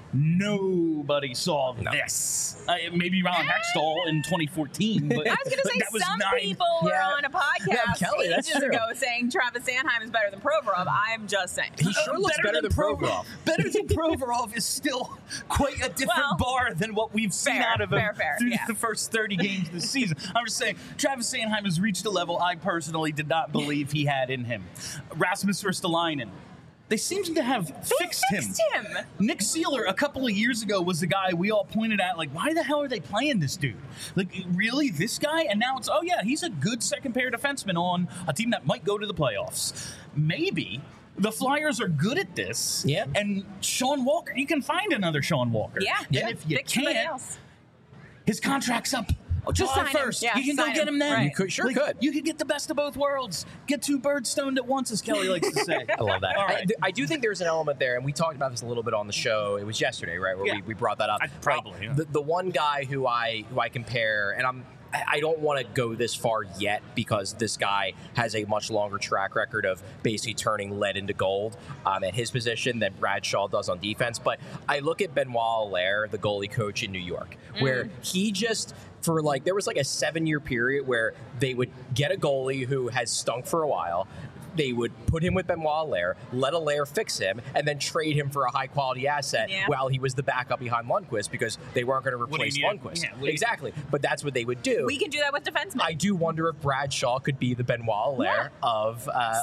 nobody saw this. Maybe Ron Hextall in 2014. But I was going to say some people were on a podcast ages ago saying Travis Sanheim is better than Provorov. I'm just saying. He sure looks better than Provorov. Better than Provorov is still quite a different bar than what we've seen out of him through the first 30 games of the season. I'm just saying, Travis Sanheim has reached a level I personally did not believe he had in him. Rasmus Ristolainen. They seem to have fixed him. Nick Seeler, a couple of years ago, was the guy we all pointed at, like, why the hell are they playing this dude? Like, really, this guy? And now it's, oh, yeah, he's a good second-pair defenseman on a team that might go to the playoffs. Maybe the Flyers are good at this. Yeah. And Sean Walker, you can find another Sean Walker. Yeah. And if you can't, his contract's up. July 1st. Yeah, you can go get him then. You could, could. You could get the best of both worlds. Get 2 birds stoned at once, as Kelly likes to say. I love that. All right. I do think there's an element there, and we talked about this a little bit on the show. It was yesterday, right, where we brought that up. Probably. Yeah. The one guy who I compare, and I don't want to go this far yet because this guy has a much longer track record of basically turning lead into gold at his position than Bradshaw does on defense. But I look at Benoit Allaire, the goalie coach in New York, where he just, for like, there was like a 7-year period where they would get a goalie who has stunk for a while. They would put him with Benoit Allaire, let Allaire fix him, and then trade him for a high-quality asset while he was the backup behiund Lundqvist because they weren't going to replace Lundqvist. Yeah, exactly. But that's what they would do. We can do that with defensemen. I do wonder if Bradshaw could be the Benoit Allaire of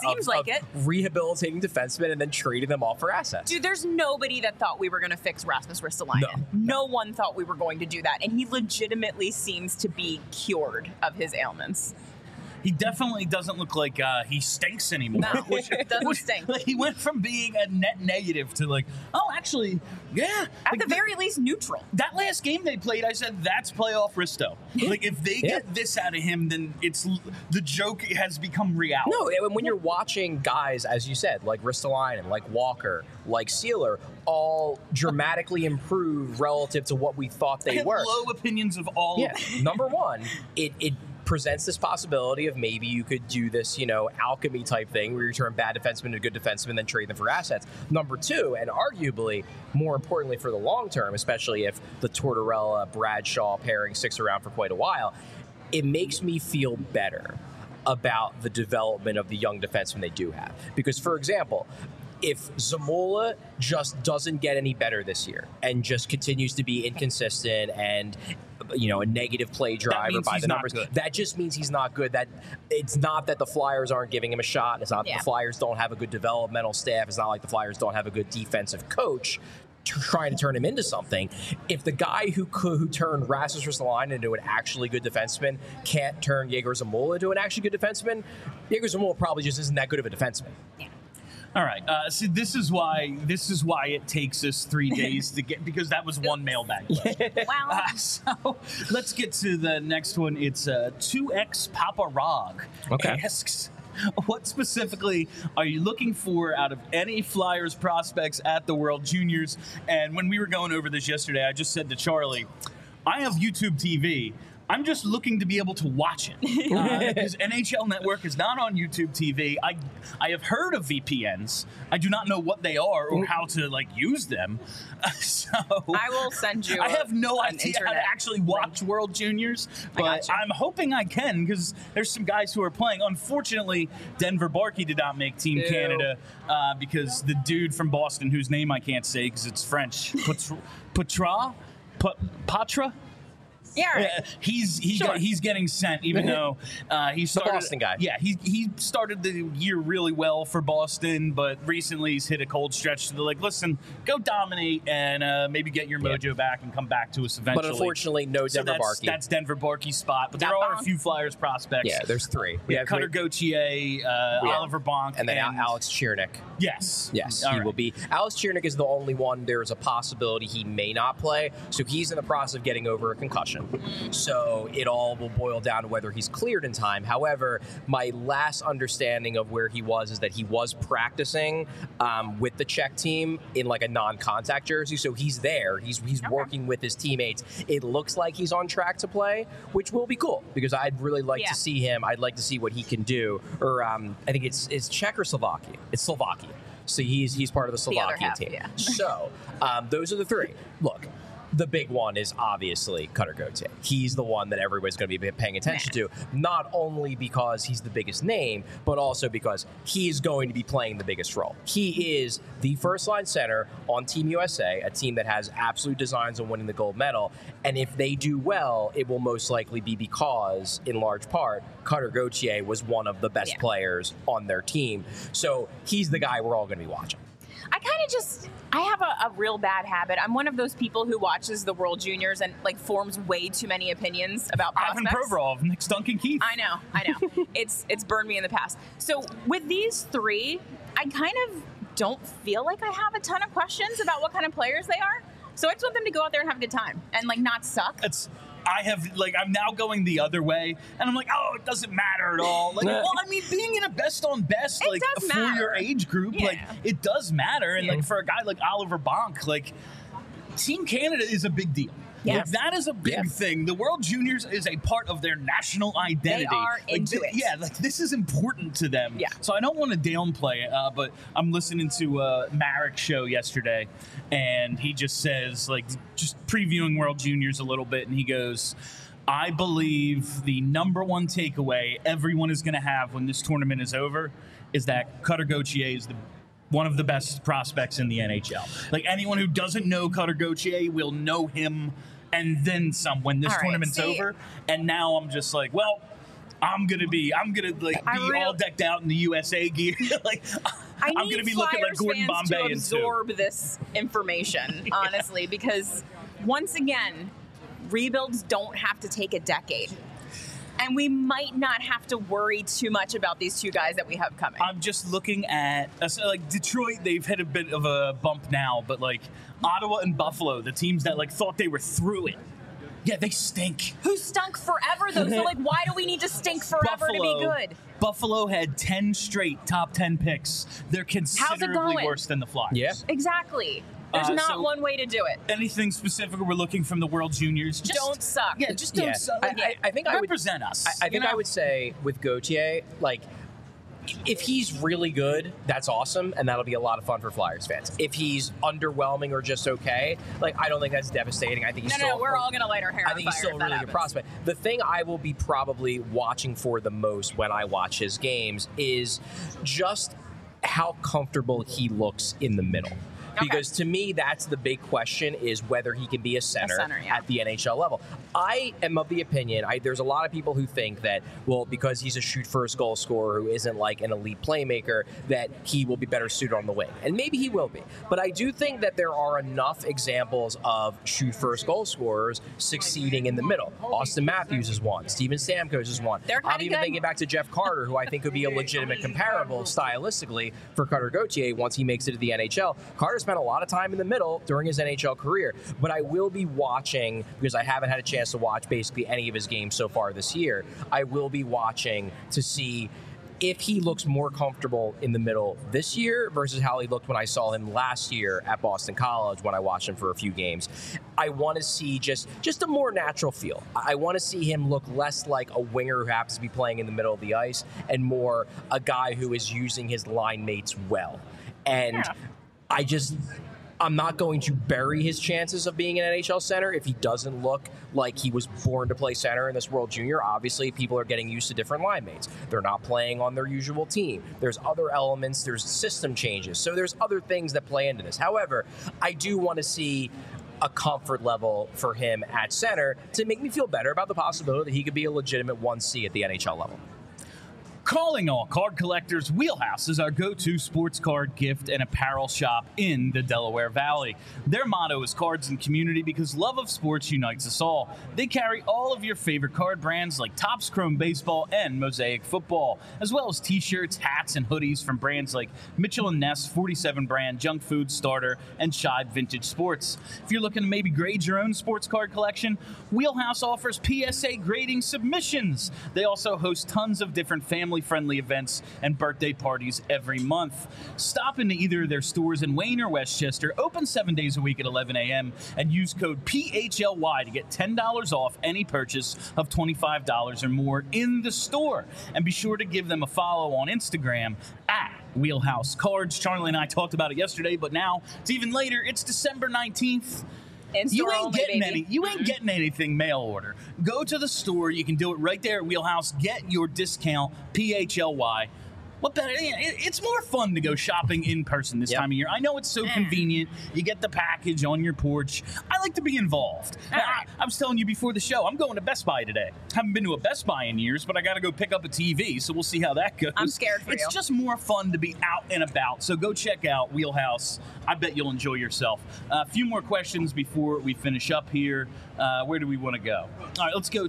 rehabilitating defensemen and then trading them off for assets. Dude, there's nobody that thought we were going to fix Rasmus Ristolainen. No one thought we were going to do that. And he legitimately seems to be cured of his ailments. He definitely doesn't look like he stinks anymore. No, doesn't stink. Like, he went from being a net negative to like, oh, actually, yeah. At the very least, neutral. That last game they played, I said, that's playoff Risto. Like, if they get this out of him, then the joke has become reality. No, and when you're watching guys, as you said, like Ristolainen, like Walker, like Seeler, all dramatically improve relative to what we thought they were. Low opinions of all of them. Number one, it presents this possibility of maybe you could do this, alchemy type thing where you turn bad defensemen to good defensemen, then trade them for assets. Number two, and arguably more importantly for the long term, especially if the Tortorella-Bradshaw pairing sticks around for quite a while, it makes me feel better about the development of the young defensemen they do have. Because, for example, if Zamula just doesn't get any better this year and just continues to be inconsistent and a negative play driver by the numbers, that just means he's not good. That it's not that the Flyers aren't giving him a shot. It's not that the Flyers don't have a good developmental staff. It's not like the Flyers don't have a good defensive coach trying to turn him into something. If the guy who turned Rasmus Ristolainen into an actually good defenseman can't turn Yegor Zamula into an actually good defenseman, Yegor Zamula probably just isn't that good of a defenseman. Yeah. All right. So this is why it takes us 3 days to get, because that was one mailbag question. Wow. So let's get to the next one. It's 2X Papa Rog asks, what specifically are you looking for out of any Flyers prospects at the World Juniors? And when we were going over this yesterday, I just said to Charlie, I have YouTube TV. I'm just looking to be able to watch it because NHL Network is not on YouTube TV. I have heard of VPNs. I do not know what they are or how to use them. So I will send you. I have no idea how to actually watch World Juniors, but I'm hoping I can because there's some guys who are playing. Unfortunately, Denver Barkey did not make Team Canada because the dude from Boston, whose name I can't say because it's French, Patra. Yeah, right. He's getting sent, even though he started. The Boston guy. Yeah, he started the year really well for Boston, but recently he's hit a cold stretch. So they're like, listen, go dominate and maybe get your mojo back and come back to us eventually. But unfortunately, no Denver Barkey. That's Denver Barkey's spot. But there are a few Flyers prospects. Yeah, there's three. We have Cutter Gauthier, Oliver Bonk, and then Alex Chirnik. Yes, he will be. Alex Chirnik is the only one. There is a possibility he may not play, so he's in the process of getting over a concussion. So it all will boil down to whether he's cleared in time. However, my last understanding of where he was is that he was practicing with the Czech team in a non-contact jersey. So he's there. He's working with his teammates. It looks like he's on track to play, which will be cool because I'd really like to see him. I'd like to see what he can do. Or I think it's Czech or Slovakia. It's Slovakia. So he's part of the Slovakia team. Yeah. So those are the three. Look. The big one is obviously Cutter Gauthier. He's the one that everybody's going to be paying attention to, not only because he's the biggest name, but also because he's going to be playing the biggest role. He is the first-line center on Team USA, a team that has absolute designs on winning the gold medal, and if they do well, it will most likely be because, in large part, Cutter Gauthier was one of the best players on their team. So he's the guy we're all going to be watching. I have a real bad habit. I'm one of those people who watches the World Juniors and forms way too many opinions about prospects. Ivan Provorov, Nick Duncan Keith. I know. It's burned me in the past. So with these three, I kind of don't feel like I have a ton of questions about what kind of players they are. So I just want them to go out there and have a good time and not suck. I'm now going the other way, and I'm like, oh, it doesn't matter at all. Being in a best on best, for your age group, it does matter. And for a guy like Oliver Bonk, Team Canada is a big deal. Yes. That is a big thing. The World Juniors is a part of their national identity. They are into it. Yeah, this is important to them. Yeah. So I don't want to downplay it, but I'm listening to Marek's show yesterday, and he just says, just previewing World Juniors a little bit, and he goes, I believe the number one takeaway everyone is going to have when this tournament is over is that Cutter Gauthier is one of the best prospects in the NHL. Anyone who doesn't know Cutter Gauthier will know him and then some when this tournament's over. And now I'm just I'm gonna be all decked out in the USA gear. I'm gonna be looking like Gordon Bombay to absorb this information, honestly, because once again, rebuilds don't have to take a decade. And we might not have to worry too much about these two guys that we have coming. I'm just looking at Detroit. They've hit a bit of a bump now, but Ottawa and Buffalo, the teams that thought they were through it. Yeah, they stink. Who stunk forever though? So why do we need to stink forever to be good? Buffalo had 10 straight top 10 picks. They're considerably worse than the Flyers. Yeah, exactly. There's not one way to do it. Anything specific we're looking from the World Juniors? Just don't suck. Yeah, just don't suck. I think represent us. I think I would say with Gauthier, if he's really good, that's awesome, and that'll be a lot of fun for Flyers fans. If he's underwhelming or just okay, I don't think that's devastating. I think he's we're all gonna light our hair on fire. I think he's still a really good prospect. The thing I will be probably watching for the most when I watch his games is just how comfortable he looks in the middle. Okay. Because to me, that's the big question, is whether he can be a center yeah. at the NHL level. I am of the opinion, there's a lot of people who think that, well, because he's a shoot-first goal scorer who isn't like an elite playmaker, that he will be better suited on the wing. And maybe he will be. But I do think that there are enough examples of shoot-first goal scorers succeeding in the middle. Austin Matthews is one. Steven Stamkos is one. I'm even thinking back to Jeff Carter, who I think could be a legitimate comparable stylistically for Cutter Gauthier once he makes it to the NHL. Carter's spent a lot of time in the middle during his NHL career, but I will be watching, because I haven't had a chance to watch basically any of his games so far this year. I will be watching to see if he looks more comfortable in the middle this year versus how he looked when I saw him last year at Boston College when I watched him for a few games. I want to see just a more natural feel. I want to see him look less like a winger who happens to be playing in the middle of the ice and more a guy who is using his line mates well. And I'm not going to bury his chances of being an NHL center if he doesn't look like he was born to play center in this World Junior. Obviously, people are getting used to different line mates. They're not playing on their usual team. There's other elements. There's system changes. So there's other things that play into this. However, I do want to see a comfort level for him at center to make me feel better about the possibility that he could be a legitimate 1C at the NHL level. Calling all card collectors, Wheelhouse is our go-to sports card gift and apparel shop in the Delaware Valley. Their motto is cards and community because love of sports unites us all. They carry all of your favorite card brands like Topps Chrome Baseball and Mosaic Football, as well as t-shirts, hats, and hoodies from brands like Mitchell & Ness, 47 Brand, Junk Food, Starter, and Shibe Vintage Sports. If you're looking to maybe grade your own sports card collection, Wheelhouse offers PSA grading submissions. They also host tons of different family-friendly events and birthday parties every month. Stop into either of their stores in Wayne or Westchester, open 7 days a week at 11 a.m., and use code PHLY to get $10 off any purchase of $25 or more in the store. And be sure to give them a follow on Instagram at Wheelhouse Cards. Charlie and I talked about it yesterday, but now it's even later. It's December 19th. You ain't getting anything mail order. Go to the store. You can do it right there at Wheelhouse. Get your discount, PHLY. What better? It's more fun to go shopping in person this time of year. I know it's so convenient. You get the package on your porch. I like to be involved. I was telling you before the show, I'm going to Best Buy today. Haven't been to a Best Buy in years, but I got to go pick up a TV, so we'll see how that goes. I'm scared for you. It's just more fun to be out and about, so go check out Wheelhouse. I bet you'll enjoy yourself. A few more questions before we finish up here. Where do we want to go? All right, let's go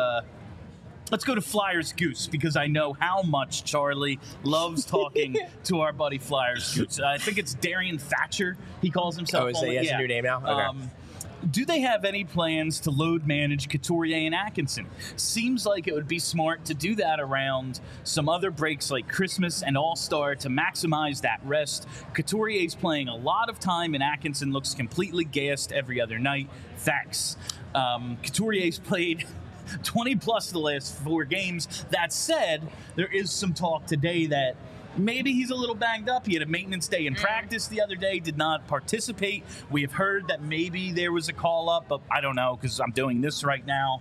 to Flyers Goose, because I know how much Charlie loves talking to our buddy Flyers Goose. I think it's Darian Thatcher, he calls himself. Oh, is he has a new name now? Okay. Do they have any plans to load manage Couturier and Atkinson? Seems like it would be smart to do that around some other breaks like Christmas and All-Star to maximize that rest. Couturier's playing a lot of time and Atkinson looks completely gassed every other night. Thanks. Couturier's played 20 plus the last 4 games. That said, there is some talk today that maybe he's a little banged up. He had a maintenance day in practice the other day, did not participate. We have heard that maybe there was a call-up, but I don't know because I'm doing this right now.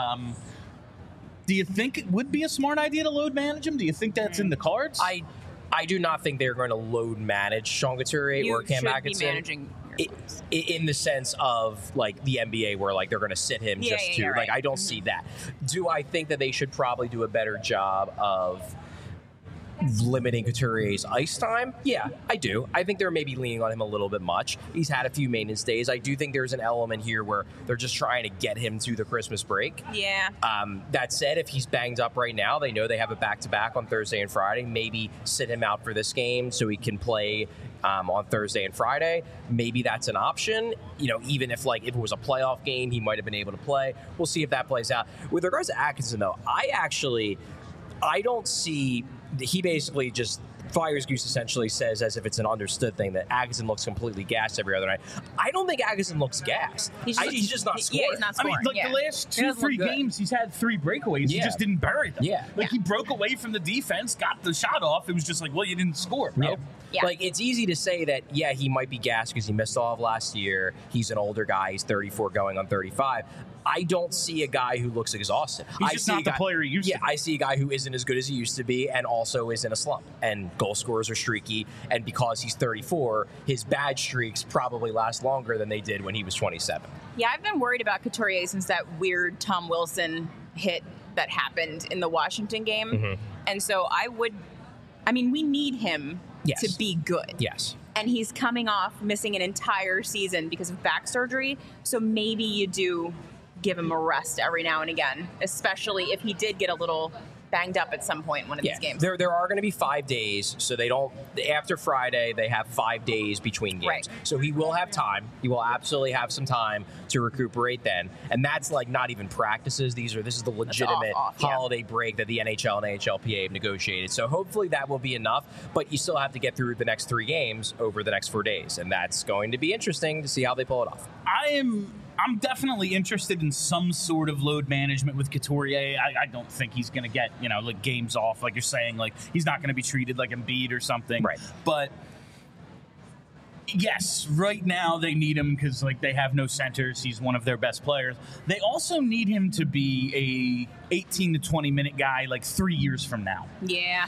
Do you think it would be a smart idea to load manage him? Do you think that's in the cards? I do not think they're going to load manage Sean Couturier or Cam Atkinson. Be managing in the sense of like the NBA where like they're going to sit him right. Like I don't see that. Do I think that they should probably do a better job of limiting Couturier's ice time? Yeah, I do. I think they're maybe leaning on him a little bit much. He's had a few maintenance days. I do think there's an element here where they're just trying to get him to the Christmas break. Yeah. That said, if he's banged up right now, they know they have a back-to-back on Thursday and Friday. Maybe sit him out for this game so he can play on Thursday and Friday. Maybe that's an option. You know, even if it was a playoff game, he might have been able to play. We'll see if that plays out. With regards to Atkinson, though, I don't see. He basically just Flyers Goose essentially says, as if it's an understood thing, that Atkinson looks completely gassed every other night. I don't think Atkinson looks gassed. He's just not scoring. Yeah, he's not scoring. I mean, the last 2-3 games, he's had 3 breakaways. He just didn't bury them. Yeah. He broke away from the defense, got the shot off. It was just like, well, you didn't score, bro. Yeah. It's easy to say that, he might be gassed because he missed all of last year. He's an older guy. He's 34 going on 35. I don't see a guy who looks exhausted. He's just not the player he used to be. I see a guy who isn't as good as he used to be and also is in a slump. And goal scorers are streaky. And because he's 34, his bad streaks probably last longer than they did when he was 27. Yeah, I've been worried about Couturier since that weird Tom Wilson hit that happened in the Washington game. Mm-hmm. And so we need him to be good. Yes. And he's coming off missing an entire season because of back surgery. So maybe you do give him a rest every now and again, especially if he did get a little banged up at some point in one of these games. There are going to be 5 days, so they don't. After Friday, they have 5 days between games. Right. So he will have time. He will absolutely have some time to recuperate then, and that's like not even practices. This is the legitimate holiday break that the NHL and NHLPA have negotiated. So hopefully that will be enough. But you still have to get through the next 3 games over the next 4 days, and that's going to be interesting to see how they pull it off. I'm definitely interested in some sort of load management with Couturier. I don't think he's going to get, like games off, like you're saying. Like, he's not going to be treated like Embiid or something. Right. But, yes, right now they need him because, like, they have no centers. He's one of their best players. They also need him to be a 18 to 20-minute guy, like, 3 years from now. Yeah.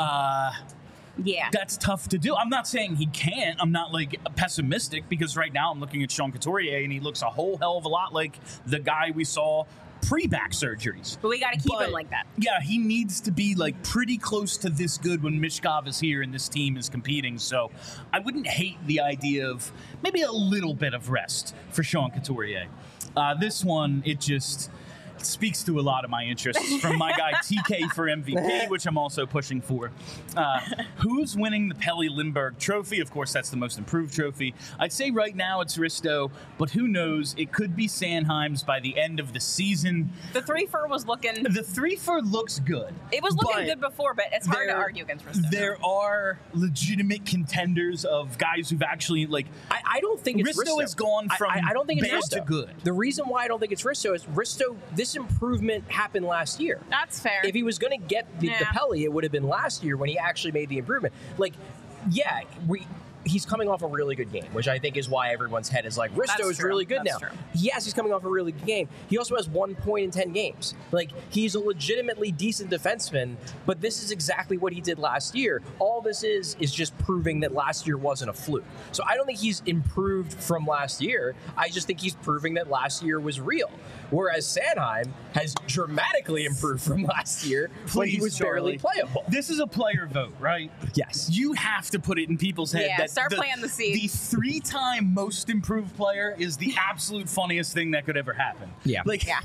Yeah. That's tough to do. I'm not saying he can't. I'm not like pessimistic because right now I'm looking at Sean Couturier and he looks a whole hell of a lot like the guy we saw pre-back surgeries. But we got to keep him like that. Yeah, he needs to be like pretty close to this good when Mishkov is here and this team is competing. So I wouldn't hate the idea of maybe a little bit of rest for Sean Couturier. This one, it just speaks to a lot of my interests from my guy TK for MVP, which I'm also pushing for. Who's winning the Pelle Lindbergh Trophy? Of course, that's the most improved trophy. I'd say right now it's Risto, but who knows? It could be Sanheim's by the end of the season. The 3-for was looking... The 3-for looks good. It was looking good before, but it's hard to argue against Risto. There are legitimate contenders of guys who've actually, like... I don't think it's Risto. Risto has gone from I don't think it's bad Risto. to good. The reason why I don't think it's Risto is this improvement happened last year. That's fair. If he was going to get the Pelle, it would have been last year when he actually made the improvement. Like, he's coming off a really good game, which I think is why everyone's head is like, Risto is really good now. True. Yes, he's coming off a really good game. He also has 1 point in 10 games. Like, he's a legitimately decent defenseman, but this is exactly what he did last year. All this is just proving that last year wasn't a fluke. So I don't think he's improved from last year. I just think he's proving that last year was real. Whereas Sanheim has dramatically improved from last year when he was barely playable. This is a player vote, right? Yes. You have to put it in people's head that start planting the seed. The 3-time most improved player is the absolute funniest thing that could ever happen. Yeah.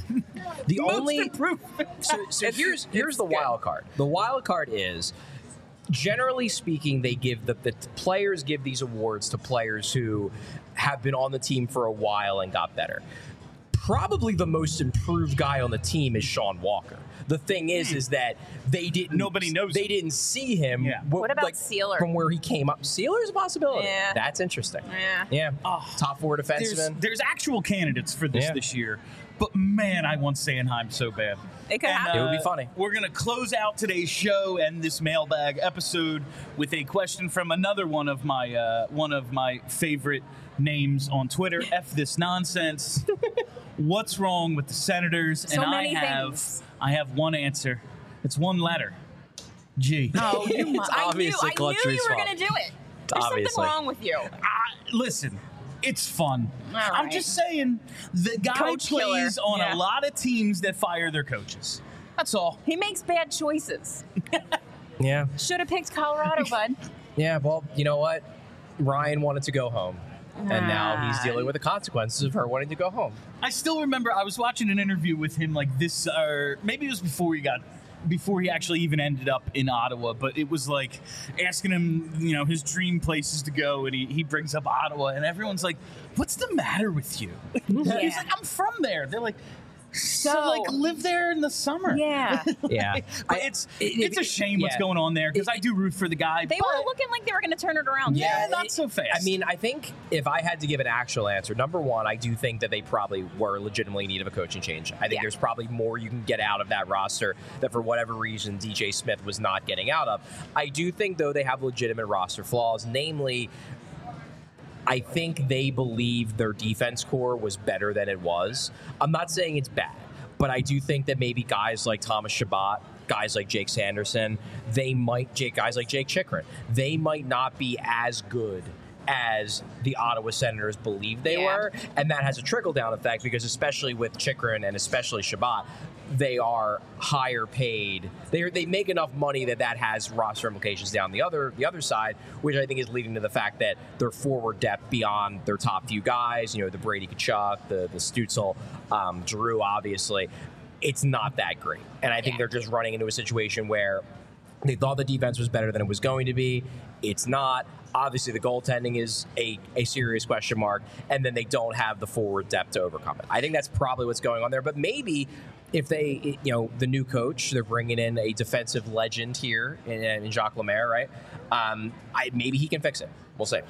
The most only improved. So here's the wild card. The wild card is, generally speaking, they give the players give these awards to players who have been on the team for a while and got better. Probably the most improved guy on the team is Sean Walker. The thing is that nobody knows. They didn't see him. Yeah. What about Sealer? From where he came up, Sealer's a possibility. Yeah. That's interesting. Yeah. Top 4 defenseman. There's actual candidates for this year, but man, I want Sanheim so bad. It could happen. It would be funny. We're going to close out today's show and this mailbag episode with a question from another one of my favorite names on Twitter. F this nonsense. What's wrong with the Senators? So and many things. I have one answer. It's one letter. G. Oh, I knew you were going to do it. There's Obviously. something wrong with you. Listen, it's fun. All I'm right. just saying, the guy Coach plays killer. on Yeah. a lot of teams that fire their coaches. That's all. He makes bad choices. Yeah. Should have picked Colorado, bud. Yeah, well, you know what? Ryan wanted to go home. And now he's dealing with the consequences of her wanting to go home. I still remember I was watching an interview with him like this, or maybe it was before he actually even ended up in Ottawa, but it was like asking him, his dream places to go, and he brings up Ottawa, and everyone's like, what's the matter with you? Yeah. He's like, I'm from there. They're like, so live there in the summer. Yeah. Yeah. But it's a shame what's going on there, because I do root for the guy. They were looking like they were going to turn it around. Yeah, not so fast. I mean, I think if I had to give an actual answer, number one, I do think that they probably were legitimately in need of a coaching change. I think there's probably more you can get out of that roster that for whatever reason DJ Smith was not getting out of. I do think, though, they have legitimate roster flaws, namely, I think they believe their defense core was better than it was. I'm not saying it's bad, but I do think that maybe guys like Thomas Chabot, guys like Jake Sanderson, guys like Jake Chikrin, they might not be as good as the Ottawa Senators believe they were. And that has a trickle-down effect because especially with Chikrin and especially Chabot, they are higher paid. They make enough money that has roster implications down the other side, which I think is leading to the fact that their forward depth beyond their top few guys, the Brady Tkachuk, the Stützle, Giroux, obviously, it's not that great. And I think they're just running into a situation where they thought the defense was better than it was going to be. It's not. Obviously, the goaltending is a serious question mark, and then they don't have the forward depth to overcome it. I think that's probably what's going on there. But maybe if they, the new coach, they're bringing in a defensive legend here in Jacques Lemaire, right? Maybe he can fix it. We'll see.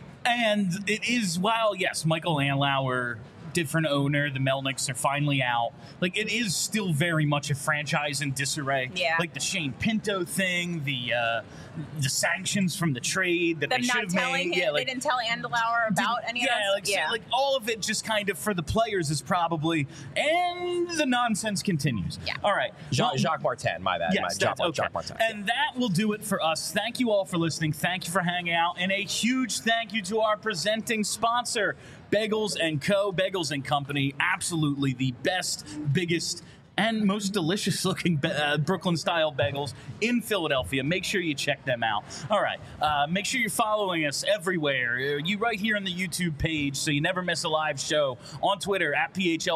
And it is, while, yes, Michael Andlauer, different owner, the Melnicks are finally out. Like, it is still very much a franchise in disarray. Yeah. Like the Shane Pinto thing, the sanctions from the trade that they should have made. Him, they didn't tell Andlauer about any of that. Like all of it just kind of for the players is probably, and the nonsense continues. Yeah. All right. Jacques Martin, my bad. Yes, Jacques Martin. And that will do it for us. Thank you all for listening. Thank you for hanging out. And a huge thank you to our presenting sponsor, Bagels & Co. Bagels & Company. Absolutely the best, biggest, and most delicious looking Brooklyn-style bagels in Philadelphia. Make sure you check them out. All right. Make sure you're following us everywhere. You right here on the YouTube page so you never miss a live show. On Twitter, at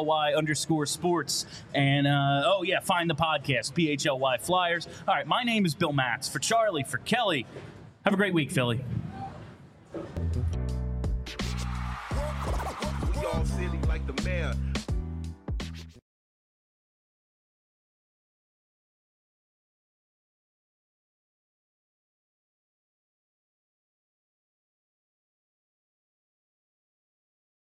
@PHLY_sports. And, find the podcast, PHLY Flyers. All right. My name is Bill Matz. For Charlie, for Kelly, have a great week, Philly. Y'all silly like the mayor.